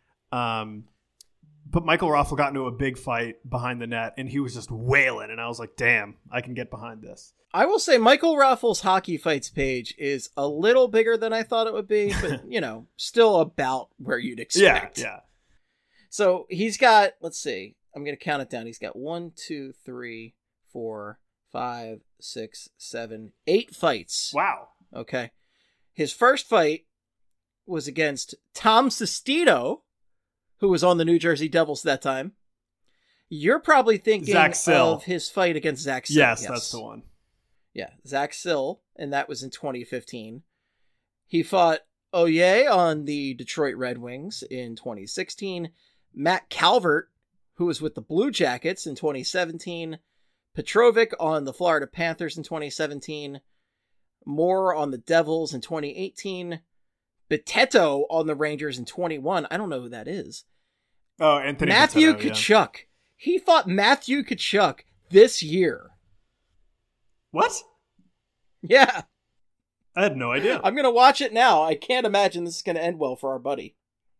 But Michael Raffl got into a big fight behind the net, and he was just wailing, and I was like, damn, I can get behind this. I will say Michael Raffl's Hockey Fights page is a little bigger than I thought it would be, but, still about where you'd expect. Yeah. So he's got, let's see, I'm going to count it down. He's got 1, 2, 3, 4, 5, 6, 7, 8 fights. Wow. Okay. His first fight was against Tom Sestito, who was on the New Jersey Devils at that time. You're probably thinking of his fight against Zach Sill. Yes, that's the one. Yeah, Zach Sill, and that was in 2015. He fought Oye on the Detroit Red Wings in 2016. Matt Calvert, who was with the Blue Jackets in 2017. Petrovic on the Florida Panthers in 2017. Moore on the Devils in 2018. Bitetto on the Rangers in 21. I don't know who that is. Oh, Anthony Matthew Patetto, Tkachuk. Yeah. He fought Matthew Tkachuk this year. What? Yeah. I had no idea. I'm going to watch it now. I can't imagine this is going to end well for our buddy.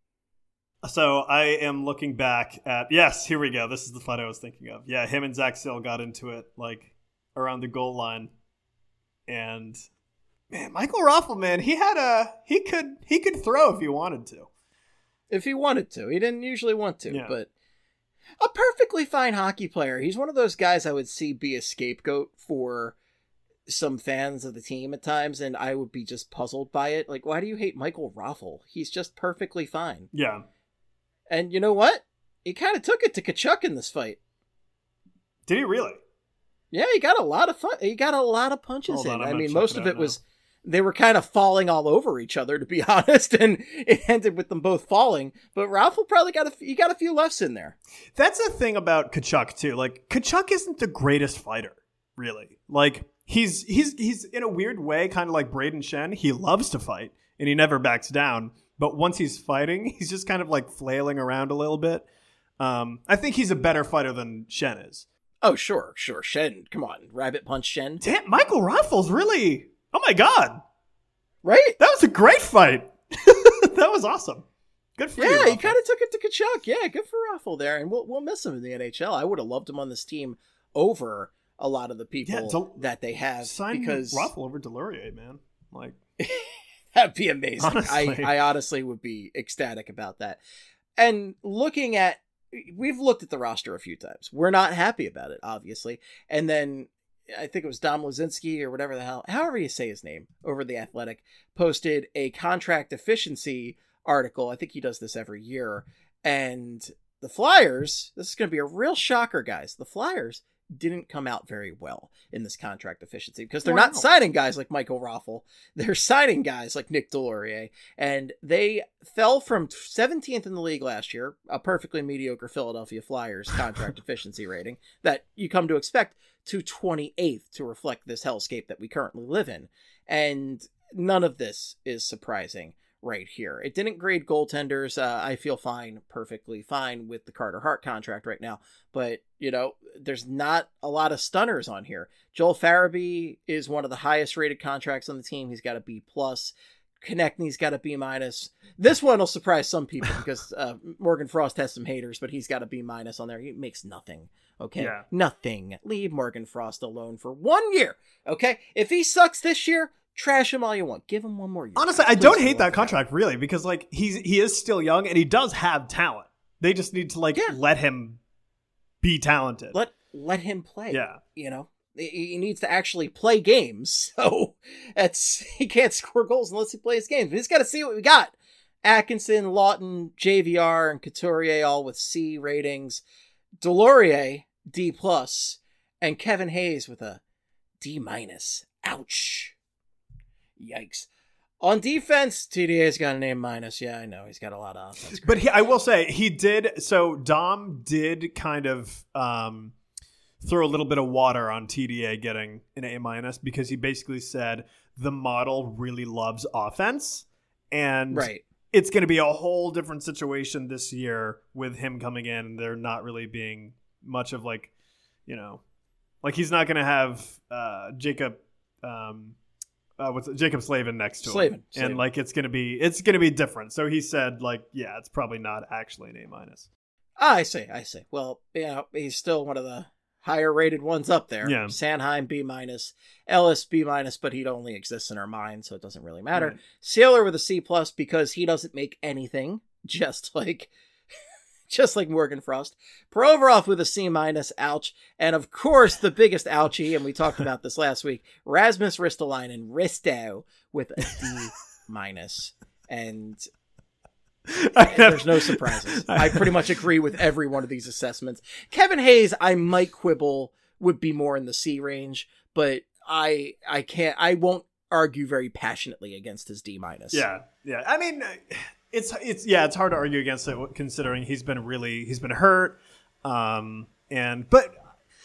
So I am looking back at, yes, here we go. This is the fight I was thinking of. Yeah, him and Zach Sill got into it like around the goal line. And man, Michael Raffl, man, he could throw if he wanted to. If he wanted to. He didn't usually want to, Yeah. but a perfectly fine hockey player. He's one of those guys I would see be a scapegoat for some fans of the team at times, and I would be just puzzled by it. Like, why do you hate Michael Raffl? He's just perfectly fine. Yeah. And you know what? He kind of took it to Tkachuk in this fight. Did he really? Yeah, he got a lot of fun. He got a lot of punches Hold on, in. I'm I gonna mean, check most it of out it was they were kind of falling all over each other, to be honest, and it ended with them both falling. But Raffl probably got a few lefts in there. That's the thing about Tkachuk too. Like, Tkachuk isn't the greatest fighter, really. Like, he's in a weird way kind of like Braden Shen. He loves to fight and he never backs down. But once he's fighting, he's just kind of like flailing around a little bit. I think he's a better fighter than Shen is. Oh, sure. Shen, come on. Rabbit punch Shen. Damn, Michael Raffl's really... Oh my God. Right? That was a great fight. That was awesome. Good for you, Yeah, he Raffl. kind of took it to Tkachuk. Yeah, good for Raffl there. And we'll miss him in the NHL. I would have loved him on this team over a lot of the people that they have. Sign because Raffl over Delorier, man. Like... That'd be amazing. Honestly. I honestly would be ecstatic about that. And we've looked at the roster a few times. We're not happy about it, obviously. And then I think it was Dom Lazinski or whatever the hell, however you say his name, over The Athletic, posted a contract efficiency article. I think he does this every year. And the Flyers, this is going to be a real shocker, guys. The Flyers didn't come out very well in this contract efficiency because they're not signing guys like Michael Raffl. They're signing guys like Nick Delorier, and they fell from 17th in the league last year, a perfectly mediocre Philadelphia Flyers contract efficiency rating that you come to expect, to 28th to reflect this hellscape that we currently live in. And none of this is surprising right here. It didn't grade goaltenders. I feel perfectly fine with the Carter Hart contract right now, but there's not a lot of stunners on here. Joel Farabee is one of the highest rated contracts on the team. He's got a B+. Konechny's got a B-. This one will surprise some people because Morgan Frost has some haters, but he's got a B- on there. He makes nothing. Okay. Yeah. Nothing. Leave Morgan Frost alone for 1 year. Okay. If he sucks this year, trash him all you want. Give him one more year. Honestly, I don't hate that contract really because like he is still young and he does have talent. They just need to let him be talented. Let him play. Yeah. He needs to actually play games. So he can't score goals unless he plays games. But he's got to see what we got. Atkinson, Lawton, JVR, and Couturier all with C ratings. Delorier, D+, and Kevin Hayes with a D-. Ouch. Yikes. On defense, TDA's got an A-. Yeah, I know. He's got a lot of offense. But I will say, he did... So, Dom did kind of throw a little bit of water on TDA getting an A- because he basically said the model really loves offense. And it's going to be a whole different situation this year with him coming in. And there not really being much of he's not going to have Jacob... Jacob Slavin next to him. And it's gonna be different. So he said it's probably not actually an A-. I see. Well, he's still one of the higher rated ones up there. Yeah. Sanheim B-, Ellis B-, but he only exists in our mind, so it doesn't really matter. Right. Sealer with a C+ because he doesn't make anything, just like Morgan Frost. Provorov with a C-, ouch. And of course, the biggest ouchie, and we talked about this last week, Rasmus Ristolainen, Risto, with a D-. And there's no surprises. I pretty much agree with every one of these assessments. Kevin Hayes, I might quibble, would be more in the C range, but I won't argue very passionately against his D-. Yeah. I mean... It's hard to argue against it considering he's been hurt. But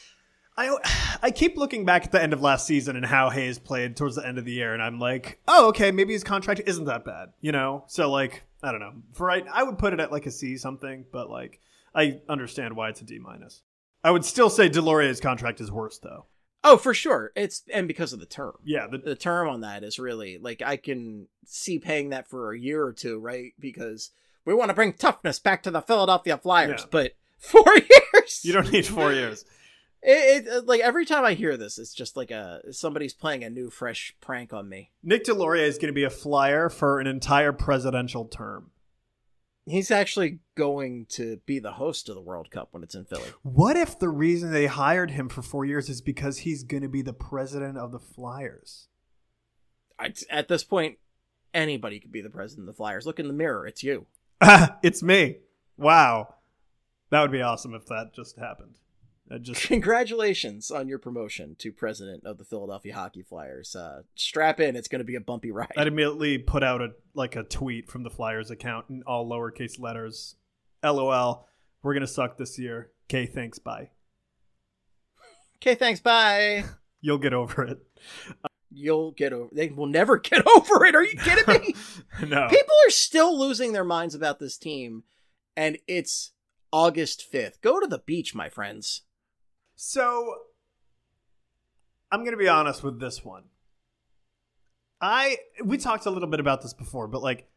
I keep looking back at the end of last season and how Hayes played towards the end of the year, and I'm like, oh, okay, maybe his contract isn't that bad, So I don't know. I would put it at like a C something, but like I understand why it's a D-. I would still say Deslauriers's contract is worse though. Oh, for sure. And because of the term. Yeah. The term on that is really, like, I can see paying that for a year or two, right? Because we want to bring toughness back to the Philadelphia Flyers, but 4 years? You don't need 4 years. It like, every time I hear this, it's just like somebody's playing a new, fresh prank on me. Nick Deslauriers is going to be a Flyer for an entire presidential term. He's actually going to be the host of the World Cup when it's in Philly. What if the reason they hired him for 4 years is because he's going to be the president of the Flyers? At this point, anybody could be the president of the Flyers. Look in the mirror. It's you. It's me. Wow. That would be awesome if that just happened. Congratulations on your promotion to president of the Philadelphia Hockey Flyers. Strap in. It's going to be a bumpy ride. I'd immediately put out a tweet from the Flyers account in all lowercase letters. LOL. We're going to suck this year. Okay, thanks. Bye. Okay, thanks. Bye. You'll get over it. They will never get over it. Are you kidding me? No. People are still losing their minds about this team, and it's August 5th. Go to the beach, my friends. So, I'm going to be honest with this one. We talked a little bit about this before, but like,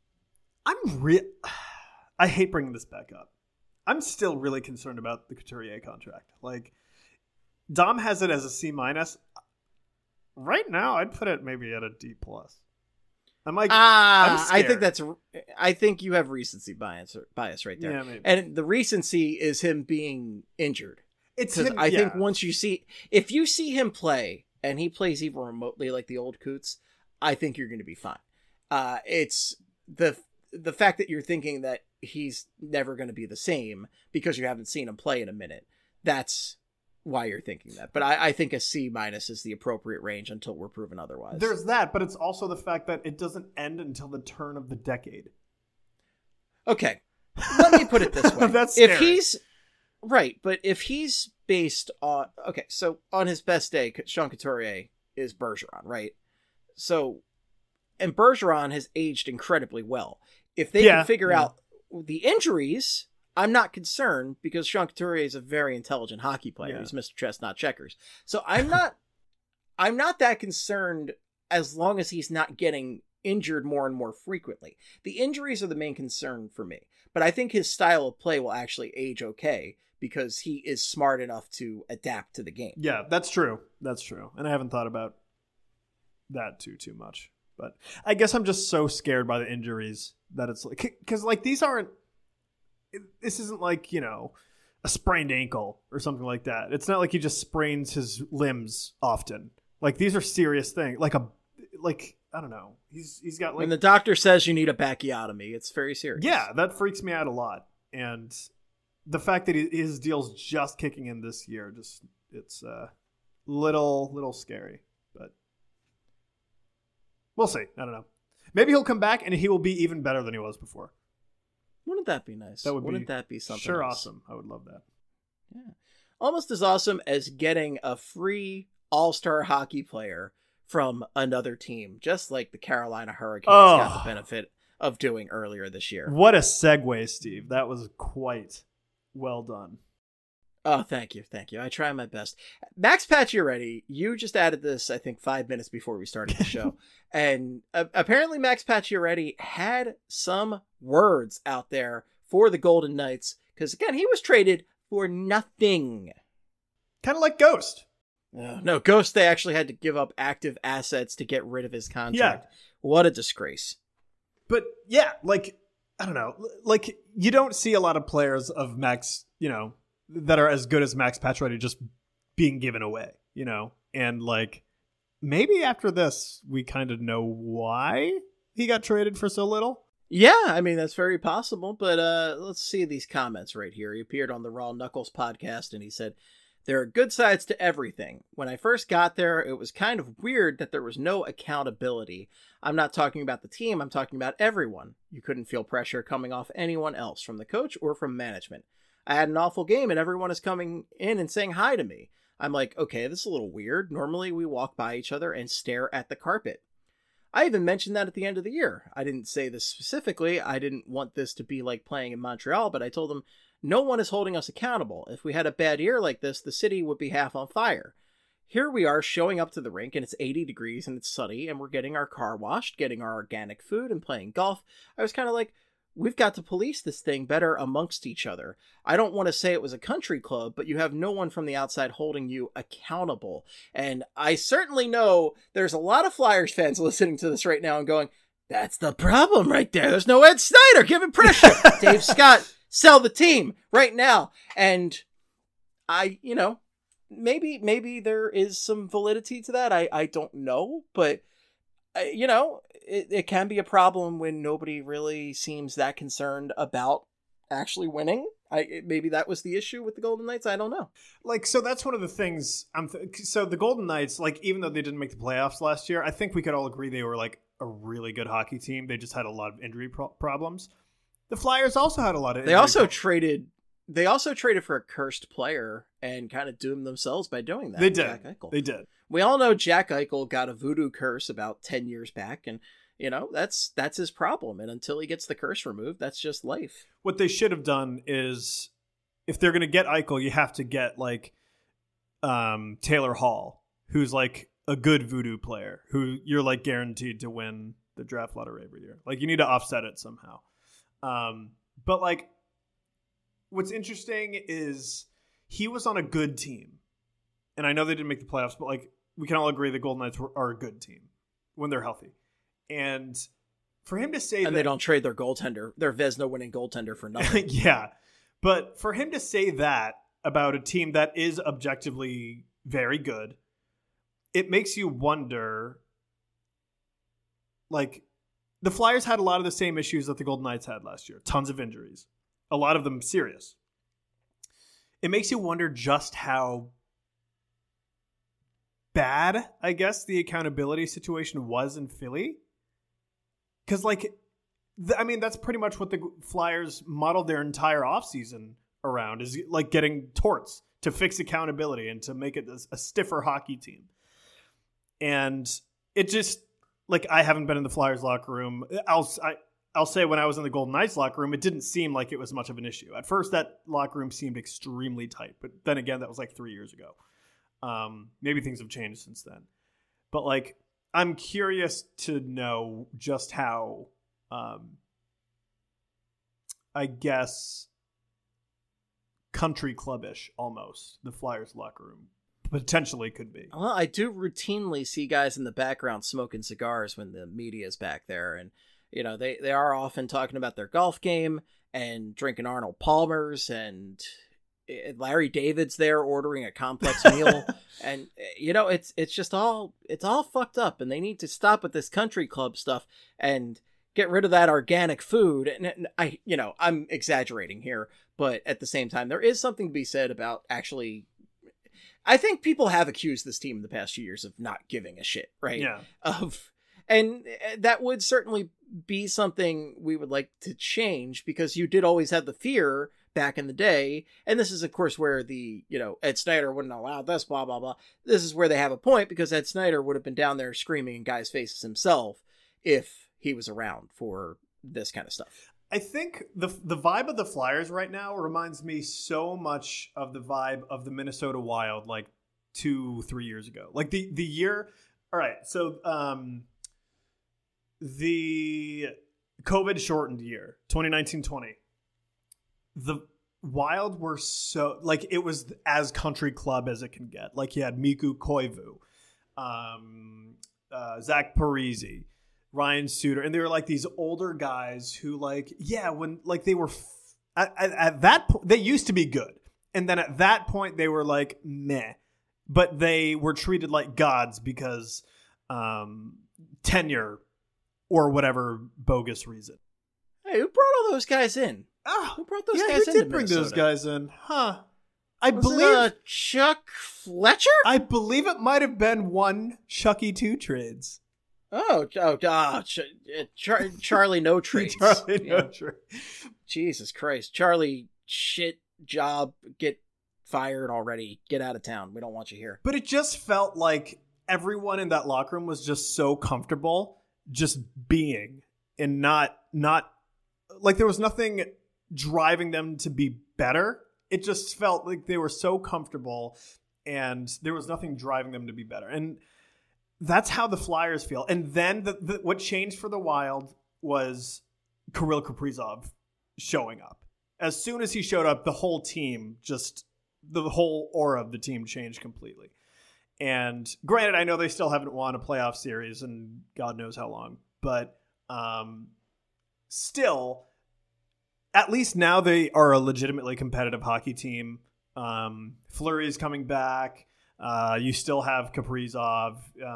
I hate bringing this back up. I'm still really concerned about the Couturier contract. Like, Dom has it as a C-. Right now, I'd put it maybe at a D+. I'm like, I'm scared. I think you have recency bias right there. Yeah, maybe. And the recency is him being injured. It's him. I think if you see him play and he plays even remotely like the old Coots, I think you're going to be fine. It's the fact that you're thinking that he's never going to be the same because you haven't seen him play in a minute. That's why you're thinking that. But I think a C- is the appropriate range until we're proven otherwise. There's that, but it's also the fact that it doesn't end until the turn of the decade. Okay. Let me put it this way. That's scary. If he's right, but if he's based on so on his best day, Sean Couturier is Bergeron, right? So, and Bergeron has aged incredibly well. If they can figure out the injuries, I'm not concerned because Sean Couturier is a very intelligent hockey player. He's Mr. Chestnut Checkers. So I'm not that concerned as long as he's not getting injured more and more frequently. The injuries are the main concern for me. But I think his style of play will actually age okay because he is smart enough to adapt to the game. Yeah, that's true. That's true. And I haven't thought about that too much. But I guess I'm just so scared by the injuries that it's like, because like this isn't like, a sprained ankle or something like that. It's not like he just sprains his limbs often. Like these are serious things. I don't know. He's got like, when the doctor says you need a bacchiotomy, it's very serious. Yeah, that freaks me out a lot. And the fact that his deal's just kicking in this year, it's little scary. But we'll see. I don't know. Maybe he'll come back and he will be even better than he was before. Wouldn't that be nice? Wouldn't that be something? Sure, else? Awesome. I would love that. Yeah, almost as awesome as getting a free all-star hockey player from another team, just like the Carolina Hurricanes got the benefit of doing earlier this year. What a segue, Steve. That was quite well done. Oh, thank you. I try my best. Max Pacioretty, you just added this, I think, 5 minutes before we started the show. And apparently Max Pacioretty had some words out there for the Golden Knights. Because, again, he was traded for nothing. Kind of like Ghost. No, Ghost, they actually had to give up active assets to get rid of his contract. Yeah. What a disgrace. But, yeah, like, I don't know. Like, you don't see a lot of players of Max, that are as good as Max Pacioretty just being given away, And, like, maybe after this, we kind of know why he got traded for so little. Yeah, I mean, that's very possible. But let's see these comments right here. He appeared on the Raw Knuckles podcast, and he said, "There are good sides to everything. When I first got there, it was kind of weird that there was no accountability. I'm not talking about the team. I'm talking about everyone. You couldn't feel pressure coming off anyone else, from the coach or from management. I had an awful game and everyone is coming in and saying hi to me. I'm like, okay, this is a little weird. Normally we walk by each other and stare at the carpet. I even mentioned that at the end of the year. I didn't say this specifically. I didn't want this to be like playing in Montreal, but I told them no one is holding us accountable. If we had a bad year like this, the city would be half on fire. Here we are showing up to the rink and it's 80 degrees and it's sunny and we're getting our car washed, getting our organic food and playing golf. I was kind of like, we've got to police this thing better amongst each other. I don't want to say it was a country club, but you have no one from the outside holding you accountable. And I certainly know there's a lot of Flyers fans listening to this right now and going, that's the problem right there. There's no Ed Snyder giving pressure. Dave Scott, sell the team right now. And maybe there is some validity to that. I don't know, but it can be a problem when nobody really seems that concerned about actually winning. Maybe that was the issue with the Golden Knights. I don't know. So that's one of the things. So the Golden Knights, even though they didn't make the playoffs last year, I think we could all agree they were a really good hockey team. They just had a lot of injury problems. The Flyers also had a lot of. They also traded for a cursed player and kind of doomed themselves by doing that. They did. Jack Eichel. They did. We all know Jack Eichel got a voodoo curse about 10 years back, and that's his problem. And until he gets the curse removed, that's just life. What they should have done is, if they're going to get Eichel, you have to get Taylor Hall, who's a good voodoo player, who you're guaranteed to win the draft lottery every year. You need to offset it somehow. But what's interesting is he was on a good team. And I know they didn't make the playoffs, but we can all agree the Golden Knights are a good team when they're healthy. And for him to say that they don't trade their goaltender, their Vezina winning goaltender, for nothing. Yeah. But for him to say that about a team that is objectively very good, it makes you wonder, the Flyers had a lot of the same issues that the Golden Knights had last year. Tons of injuries. A lot of them serious. It makes you wonder just how bad, I guess, the accountability situation was in Philly. Because, that's pretty much what the Flyers modeled their entire offseason around, is getting torts to fix accountability and to make it a stiffer hockey team. And it just, I haven't been in the Flyers locker room. I'll say when I was in the Golden Knights locker room, it didn't seem like it was much of an issue. At first, that locker room seemed extremely tight. But then again, that was 3 years ago. Maybe things have changed since then. But I'm curious to know just how, I guess, country clubbish almost the Flyers locker room potentially could be. Well, I do routinely see guys in the background smoking cigars when the media is back there. And, they are often talking about their golf game and drinking Arnold Palmer's, and Larry David's there ordering a complex meal. And, it's just it's all fucked up, and they need to stop with this country club stuff and get rid of that organic food. And I'm exaggerating here, but at the same time, there is something to be said about actually, I think people have accused this team in the past few years of not giving a shit, right? Yeah. And that would certainly be something we would like to change, because you did always have the fear back in the day. And this is, of course, where the, Ed Snyder wouldn't allow this, blah, blah, blah. This is where they have a point, because Ed Snyder would have been down there screaming in guys' faces himself if he was around for this kind of stuff. I think the vibe of the Flyers right now reminds me so much of the vibe of the Minnesota Wild 2-3 years ago. The year. All right. So the COVID shortened year, 2019-20. The Wild were so it was as country club as it can get. You had Mikko Koivu, Zach Parise, Ryan Suter, and they were these older guys who when they were at that point, they used to be good, and then at that point they were meh, but they were treated like gods because tenure or whatever bogus reason. Hey, who brought all those guys in? Who brought those guys in? Who did bring those guys in? Huh? I Was believe it, Chuck Fletcher. I believe it might have been one Chucky 2 trades. Charlie no trades. Charlie no trade. Jesus Christ, Charlie, shit job, get fired already. Get out of town. We don't want you here. But it just felt like everyone in that locker room was just so comfortable just being and not like there was nothing driving them to be better. It just felt like they were so comfortable and there was nothing driving them to be better. And that's how the Flyers feel. And then what changed for the Wild was Kirill Kaprizov showing up. As soon as he showed up, the whole team the whole aura of the team changed completely. And granted, I know they still haven't won a playoff series in God knows how long, but still, at least now they are a legitimately competitive hockey team. Fleury is coming back. You still have Kaprizov,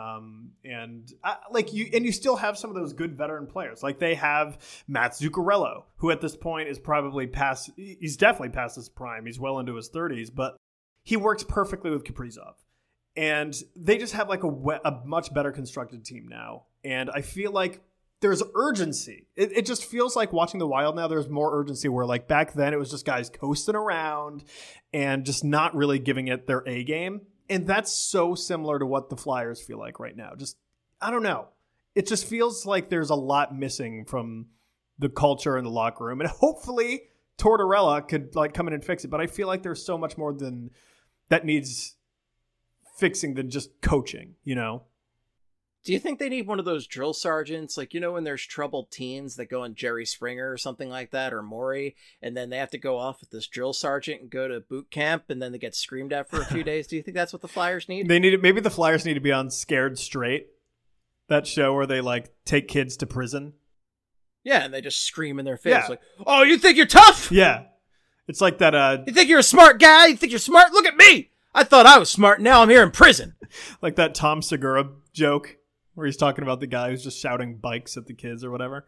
and you still have some of those good veteran players. Like they have Matt Zuccarello, who at this point is probably past. He's definitely past his prime. He's well into his 30s, but he works perfectly with Kaprizov, and they just have like a much better constructed team now. And I feel like there's urgency. It just feels like watching the Wild now. There's more urgency where like back then it was just guys coasting around and just not really giving it their A game. And that's so similar to what the Flyers feel like right now. Just, I don't know. It just feels like there's a lot missing from the culture in the locker room. And hopefully Tortorella could like come in and fix it. But I feel like there's so much more than that needs fixing than just coaching, you know? Do you think they need one of those drill sergeants? Like, you know, when there's troubled teens that go on Jerry Springer or something like that, or Maury, and then they have to go off with this drill sergeant and go to boot camp, and then they get screamed at for a few days. Do you think that's what the Flyers need? Maybe the Flyers need to be on Scared Straight, that show where they like take kids to prison. Yeah, and they just scream in their face like, "Oh, you think you're tough? Yeah, it's like that. You think you're a smart guy? You think you're smart? Look at me! I thought I was smart. Now I'm here in prison." Like that Tom Segura joke where he's talking about the guy who's just shouting bikes at the kids or whatever.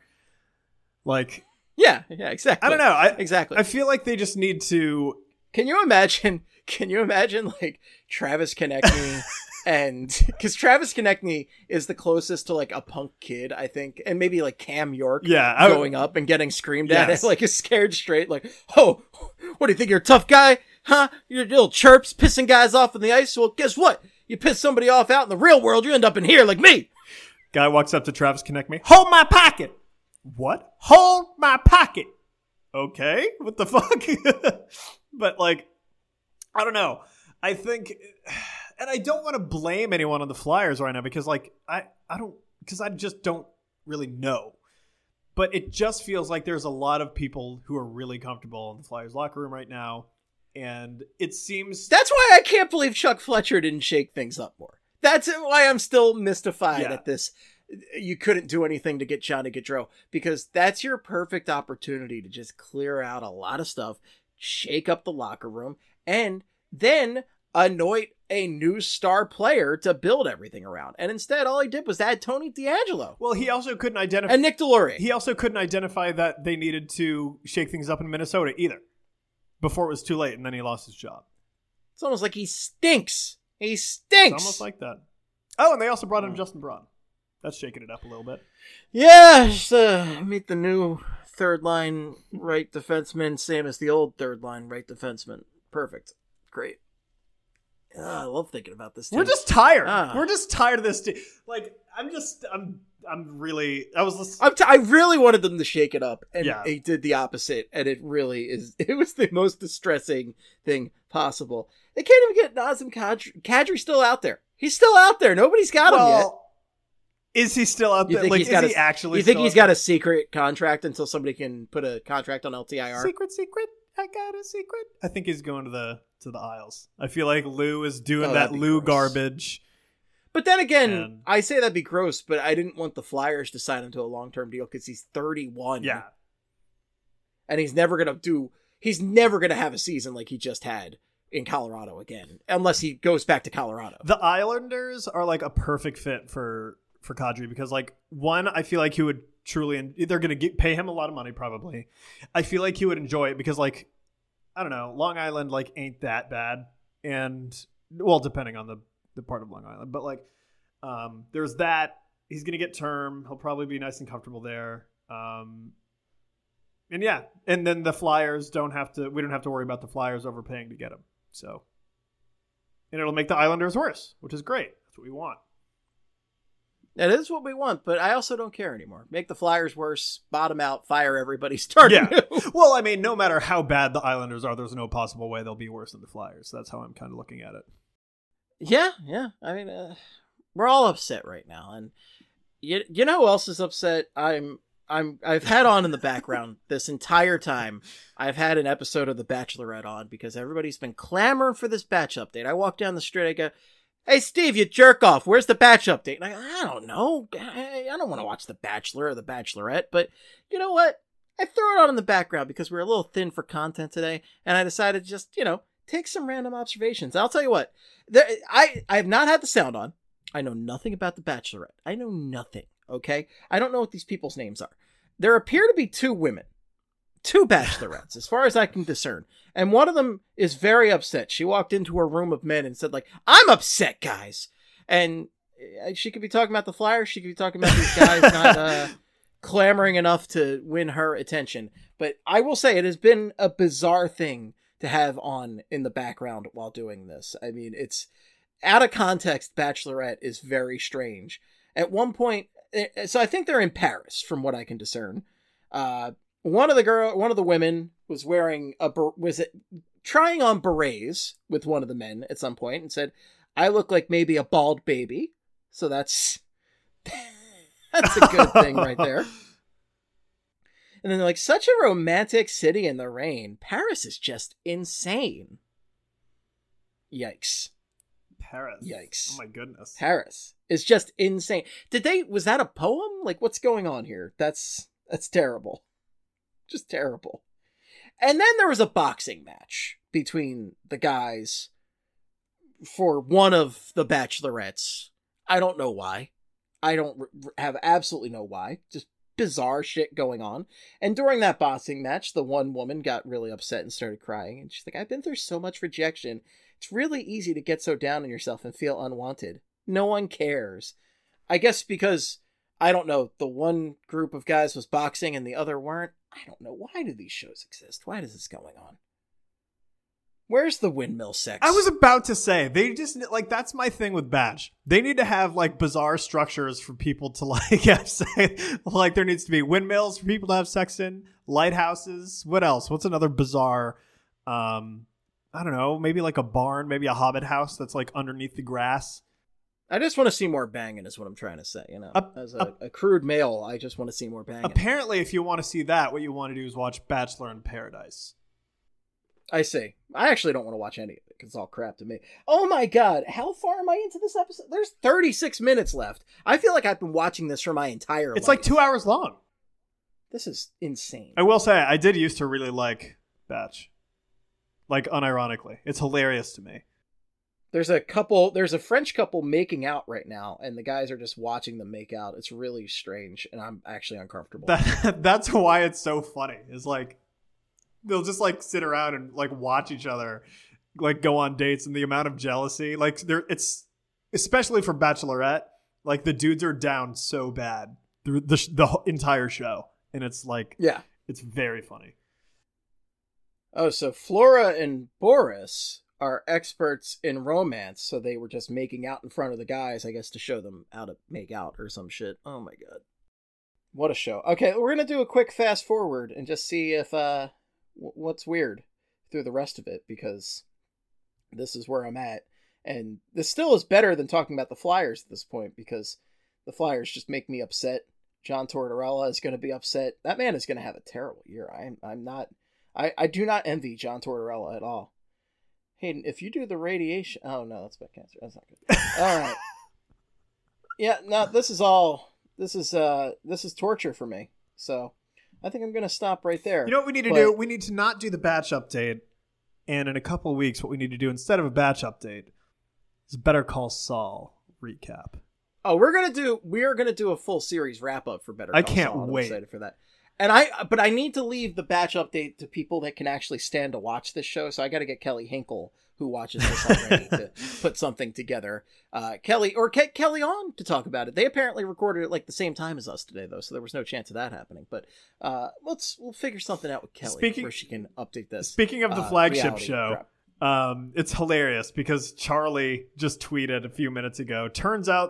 Like, yeah, exactly. I don't know. Exactly. I feel like they just need to. Can you imagine like Travis Konechny and because Travis Konechny is the closest to like a punk kid, I think, and maybe like Cam York going up and getting screamed at like a Scared Straight, like, "Oh, what do you think you're a tough guy? Huh? You're little chirps pissing guys off on the ice. Well, guess what? You piss somebody off out in the real world, you end up in here like me." Guy walks up to Travis Konechny. "Hold my pocket." "What? Hold my pocket." Okay, what the fuck? But like, I don't know. I think, and I don't want to blame anyone on the Flyers right now because like I just don't really know. But it just feels like there's a lot of people who are really comfortable in the Flyers locker room right now. And it seems... That's why I can't believe Chuck Fletcher didn't shake things up more. That's why I'm still mystified at this. You couldn't do anything to get Johnny Gaudreau, because that's your perfect opportunity to just clear out a lot of stuff, shake up the locker room, and then anoint a new star player to build everything around. And instead, all he did was add Tony DeAngelo. Well, he also couldn't identify... And Nick Deslauriers. He also couldn't identify that they needed to shake things up in Minnesota either, before it was too late, and then he lost his job. It's almost like he stinks. He stinks. It's almost like that. Oh, and they also brought in Justin Braun. That's shaking it up a little bit. Yeah, just meet the new third-line right defenseman, same as the old third-line right defenseman. Perfect. Great. I love thinking about this team. We're just tired. We're just tired of this team. Like, I'm really... I really wanted them to shake it up, and he did the opposite, and it really is... It was the most distressing thing possible. They can't even get Nazem Kadri. Kadri's still out there. He's still out there. Nobody's got him yet. Is he still out there? Like, is he actually? You think he's got a secret contract until somebody can put a contract on LTIR? Secret. I got a secret. I think he's going to the Isles. I feel like Lou is doing that Lou garbage. But then again, I say that'd be gross, but I didn't want the Flyers to sign him to a long-term deal because he's 31. Yeah. And he's never going to have a season like he just had in Colorado again, unless he goes back to Colorado. The Islanders are like a perfect fit for Kadri because, like, one, I feel like he would truly, they're going to pay him a lot of money probably. I feel like he would enjoy it because, like, I don't know, Long Island, like, ain't that bad. And, well, depending on the part of Long Island. But, like, there's that. He's going to get term. He'll probably be nice and comfortable there. And, yeah. And then the Flyers we don't have to worry about the Flyers overpaying to get him. So, and it'll make the Islanders worse, which is great. That's what we want. That is what we want, but I also don't care anymore. Make the Flyers worse, bottom out, fire everybody, start new. Well, I mean, no matter how bad the Islanders are, there's no possible way they'll be worse than the Flyers. That's how I'm kind of looking at it. Yeah. I mean, we're all upset right now, and you know who else is upset? I've had on in the background this entire time. I've had an episode of The Bachelorette on because everybody's been clamoring for this batch update. I walk down the street, I go, "Hey, Steve, you jerk off. Where's the batch update?" And I don't know. I don't want to watch The Bachelor or The Bachelorette, but you know what? I throw it on in the background because we're a little thin for content today, and I decided to just, take some random observations. And I'll tell you what, I have not had the sound on. I know nothing about The Bachelorette. I know nothing, okay? I don't know what these people's names are. There appear to be two women, two bachelorettes, as far as I can discern. And one of them is very upset. She walked into a room of men and said, "I'm upset, guys." And she could be talking about the Flyers. She could be talking about these guys not clamoring enough to win her attention. But I will say it has been a bizarre thing to have on in the background while doing this. I mean, it's out of context. Bachelorette is very strange. At one point, so I think they're in Paris, from what I can discern. One of the women was wearing trying on berets with one of the men at some point and said, "I look like maybe a bald baby." So that's a good thing right there. And then they're like, "Such a romantic city in the rain. Paris is just insane." Yikes. Paris. Yikes. Oh my goodness. Paris is just insane. Was that a poem? What's going on here? That's terrible. Just terrible. And then there was a boxing match between the guys for one of the bachelorettes. I don't know why. I don't have absolutely no why. Just bizarre shit going on. And during that boxing match, the one woman got really upset and started crying. And she's like, "I've been through so much rejection. It's really easy to get so down on yourself and feel unwanted. No one cares." I guess because, I don't know, the one group of guys was boxing and the other weren't. I don't know. Why do these shows exist? Why is this going on? Where's the windmill sex? I was about to say, they just, that's my thing with Batch. They need to have, bizarre structures for people to, there needs to be windmills for people to have sex in, lighthouses. What else? What's another bizarre, I don't know, maybe a barn, maybe a hobbit house that's, underneath the grass. I just want to see more banging is what I'm trying to say, As a crude male, I just want to see more banging. Apparently, if you want to see that, what you want to do is watch Bachelor in Paradise. I see. I actually don't want to watch any of it because it's all crap to me. Oh my god, how far am I into this episode? There's 36 minutes left. I feel like I've been watching this for my entire life. It's 2 hours long. This is insane. I will say, I did used to really like Batch. Unironically. It's hilarious to me. There's a French couple making out right now, and the guys are just watching them make out. It's really strange, and I'm actually uncomfortable. That's why it's so funny. It's they'll just sit around and watch each other go on dates, and the amount of jealousy it's especially for Bachelorette, the dudes are down so bad through the entire show, and it's it's very funny. Oh, so Flora and Boris are experts in romance, so they were just making out in front of the guys, I guess, to show them how to make out or some shit. Oh my god. What a show. Okay, we're gonna do a quick fast forward and just see if what's weird through the rest of it, because this is where I'm at. And this still is better than talking about the Flyers at this point, because the Flyers just make me upset. John Tortorella is going to be upset. That man is going to have a terrible year. I do not envy John Tortorella at all. Hayden, if you do the radiation... Oh, no, that's about cancer. That's not good. All right. Yeah, no, this is torture for me. So I think I'm going to stop right there. You know what we need to do? We need to not do the batch update. And in a couple of weeks, what we need to do instead of a batch update is Better Call Saul recap. Oh, we are gonna do a full series wrap up for Better Call Saul. I can't wait. I'm excited for that. And but I need to leave the batch update to people that can actually stand to watch this show. So I got to get Kelly Hinkle, who watches this already, to put something together. Kelly on to talk about it. They apparently recorded it the same time as us today, though, so there was no chance of that happening. But we'll figure something out with Kelly where she can update this. Speaking of the flagship show, it's hilarious because Charlie just tweeted a few minutes ago. Turns out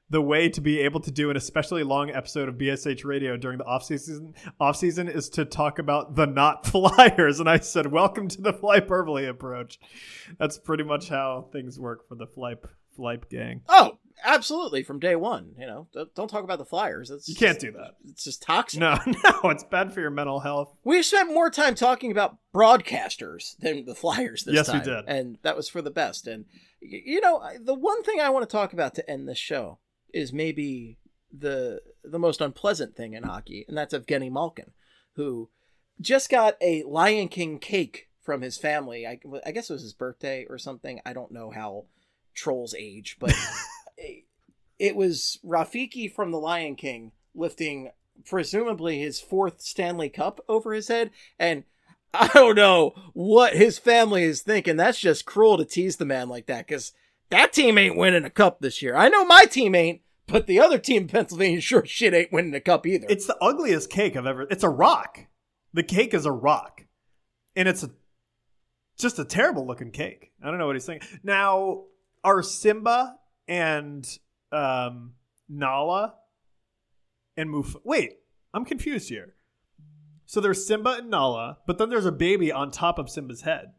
the way to be able to do an especially long episode of BSH Radio during the off season is to talk about the not Flyers. And I said, welcome to the Flyperbole approach. That's pretty much how things work for the Flype gang. Oh, absolutely. From day one, don't talk about the Flyers. You can't do that. It's just toxic. No, it's bad for your mental health. We spent more time talking about broadcasters than the Flyers this time. Yes, we did. And that was for the best. And, the one thing I want to talk about to end this show is maybe the most unpleasant thing in hockey, and that's Evgeny Malkin, who just got a Lion King cake from his family. I guess it was his birthday or something. I don't know how trolls age, but it was Rafiki from the Lion King lifting presumably his 4th Stanley Cup over his head, and I don't know what his family is thinking. That's just cruel to tease the man like that, because that team ain't winning a cup this year. I know my team ain't, but the other team in Pennsylvania sure shit ain't winning a cup either. It's the ugliest cake I've ever... It's a rock. The cake is a rock. And it's just a terrible looking cake. I don't know what he's thinking. Now, are Simba and Nala and Wait, I'm confused here. So there's Simba and Nala, but then there's a baby on top of Simba's head.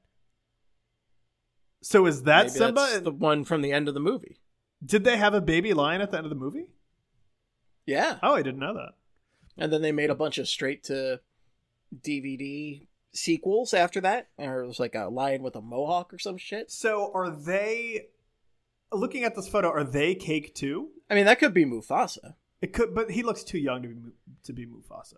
So is that Maybe Simba? That's the one from the end of the movie. Did they have a baby lion at the end of the movie? Yeah. Oh, I didn't know that. And then they made a bunch of straight to DVD sequels after that. Or it was like a lion with a mohawk or some shit. So are they, looking at this photo, are they cake too? I mean, that could be Mufasa. It could, but he looks too young to be Mufasa.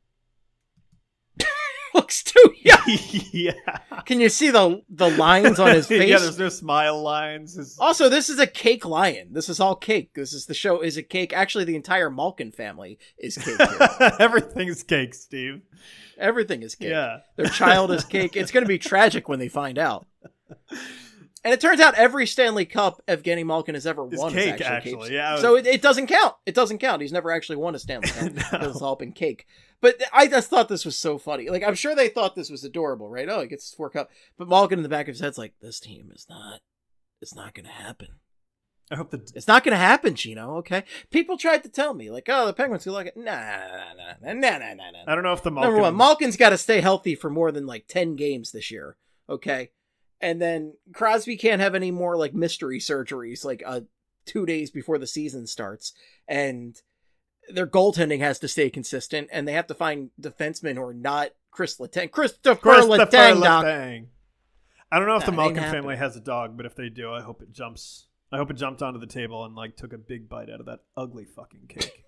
Looks too young. Yeah. Can you see the lines on his face? Yeah, there's no smile lines. Also, this is a cake lion. This is all cake. The show is a cake. Actually, the entire Malkin family is cake here. Everything's cake, Steve. Everything is cake. Yeah. Their child is cake. It's going to be tragic when they find out. And it turns out every Stanley Cup Evgeny Malkin has ever won cake, is actually. cake. Yeah. So it doesn't count. It doesn't count. He's never actually won a Stanley Cup. Because it's all been cake. But I just thought this was so funny. Like, I'm sure they thought this was adorable, right? Oh, he gets his 4 cup. But Malkin in the back of his head's like, this team is not, it's not going to happen. I hope it's not going to happen, Gino. Okay. People tried to tell me, like, oh, the Penguins will like it. Nah. I don't know if the Malkin... Number one, Malkin's got to stay healthy for more than like 10 games this year. Okay. And then Crosby can't have any more like mystery surgeries, like 2 days before the season starts. And their goaltending has to stay consistent, and they have to find defensemen who are not Christopher Letang. I don't know if the Malkin family has a dog, but if they do, I hope it jumped onto the table and like took a big bite out of that ugly fucking cake.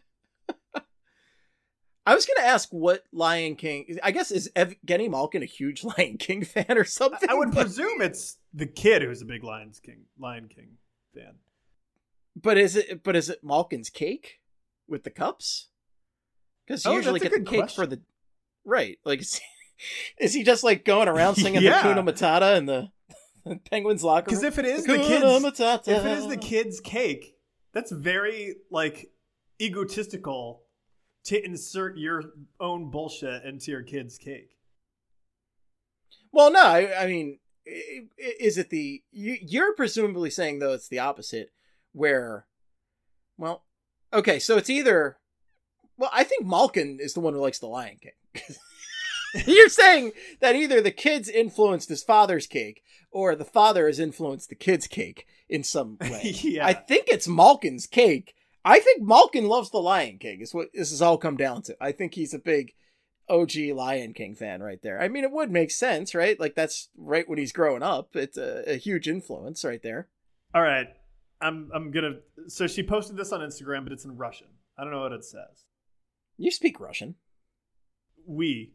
I was going to ask what Lion King... I guess, is Evgeny Malkin a huge Lion King fan or something? I would presume it's the kid who's a big Lion King fan. But is it Malkin's cake with the cups? Because you usually get the cake for the... Right. Like, is he just like going around singing the Hakuna Matata in the Penguins locker room? Because if it is the kid's cake, that's very like egotistical to insert your own bullshit into your kid's cake. Well, no, I mean, is it you're presumably saying, though, it's the opposite, where, well, okay, so it's either, well, I think Malkin is the one who likes the Lion King. You're saying that either the kid's influenced his father's cake, or the father has influenced the kid's cake in some way. Yeah. I think it's Malkin's cake. I think Malkin loves the Lion King, is what this has all come down to. I think he's a big OG Lion King fan right there. I mean, it would make sense, right? Like, that's right when he's growing up. It's a huge influence right there. All right. I'm gonna... So she posted this on Instagram, but it's in Russian. I don't know what it says. You speak Russian. We.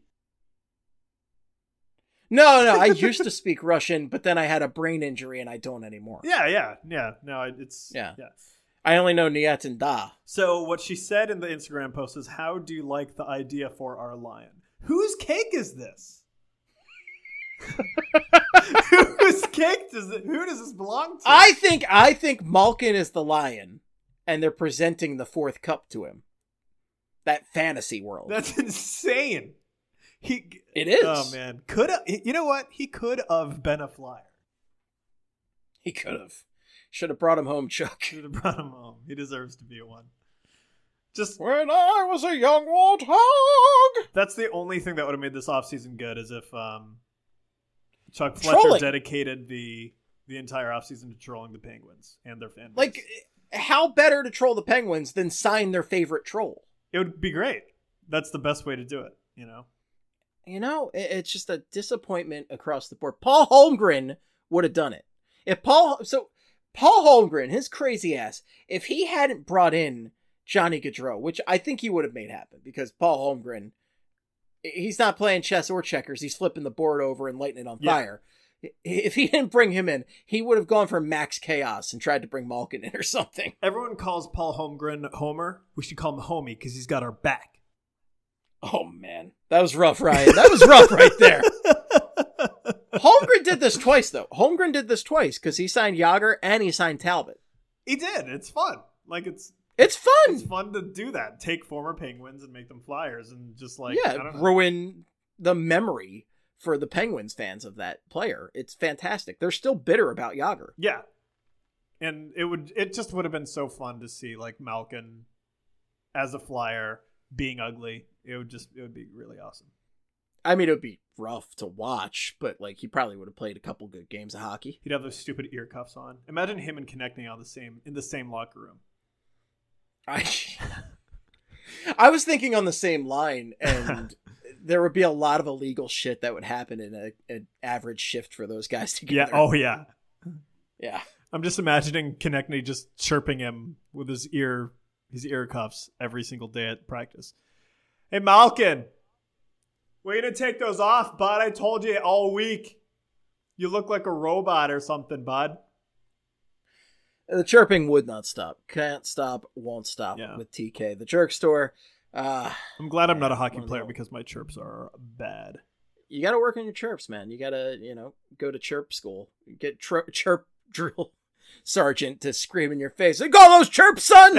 No, I used to speak Russian, but then I had a brain injury and I don't anymore. Yeah. No, it's... Yeah. I only know Niet and Da. So what she said in the Instagram post is, how do you like the idea for our lion? Whose cake is this? Whose cake who does this belong to? I think Malkin is the lion, and they're presenting the 4th cup to him. That fantasy world. That's insane. It is. Oh man. You know what? He could have been a Flyer. He could have. Should have brought him home, Chuck. Should have brought him home. He deserves to be a one. Just when I was a young warthog. That's the only thing that would have made this offseason good, is if Chuck Fletcher Trolling. dedicated the entire offseason to trolling the Penguins and their fan base. Like, how better to troll the Penguins than sign their favorite troll? It would be great. That's the best way to do it, you know? You know, it's just a disappointment across the board. Paul Holmgren would have done it. Paul Holmgren, his crazy ass, if he hadn't brought in Johnny Gaudreau, which I think he would have made happen, because Paul Holmgren, he's not playing chess or checkers. He's flipping the board over and lighting it on fire. If he didn't bring him in, he would have gone for max chaos and tried to bring Malkin in or something. Everyone calls Paul Holmgren Homer. We should call him Homie because he's got our back. Oh, man. That was rough, Ryan. That was rough right there. Holmgren did this twice, though. Holmgren did this twice because he signed Yager and he signed Talbot. He did. It's fun. Like, it's fun. It's fun to do that. Take former Penguins and make them Flyers and just like, I don't know. Ruin the memory for the Penguins fans of that player. It's fantastic. They're still bitter about Yager. Yeah. And it just would have been so fun to see like Malkin as a Flyer being ugly. It would be really awesome. I mean, it would be rough to watch, but like he probably would have played a couple good games of hockey. He'd have those stupid ear cuffs on. Imagine him and Konechny in the same locker room. I was thinking on the same line, and there would be a lot of illegal shit that would happen in an average shift for those guys together. Yeah. Oh yeah. Yeah. I'm just imagining Konechny just chirping him with his ear cuffs every single day at practice. Hey, Malkin, way to take those off, bud. I told you all week. You look like a robot or something, bud. The chirping would not stop. Can't stop, won't stop with TK. The Jerk Store. I'm glad I'm not a hockey player because my chirps are bad. You got to work on your chirps, man. You got to, go to chirp school. Get chirp drill sergeant to scream in your face. Hey, go those chirps, son!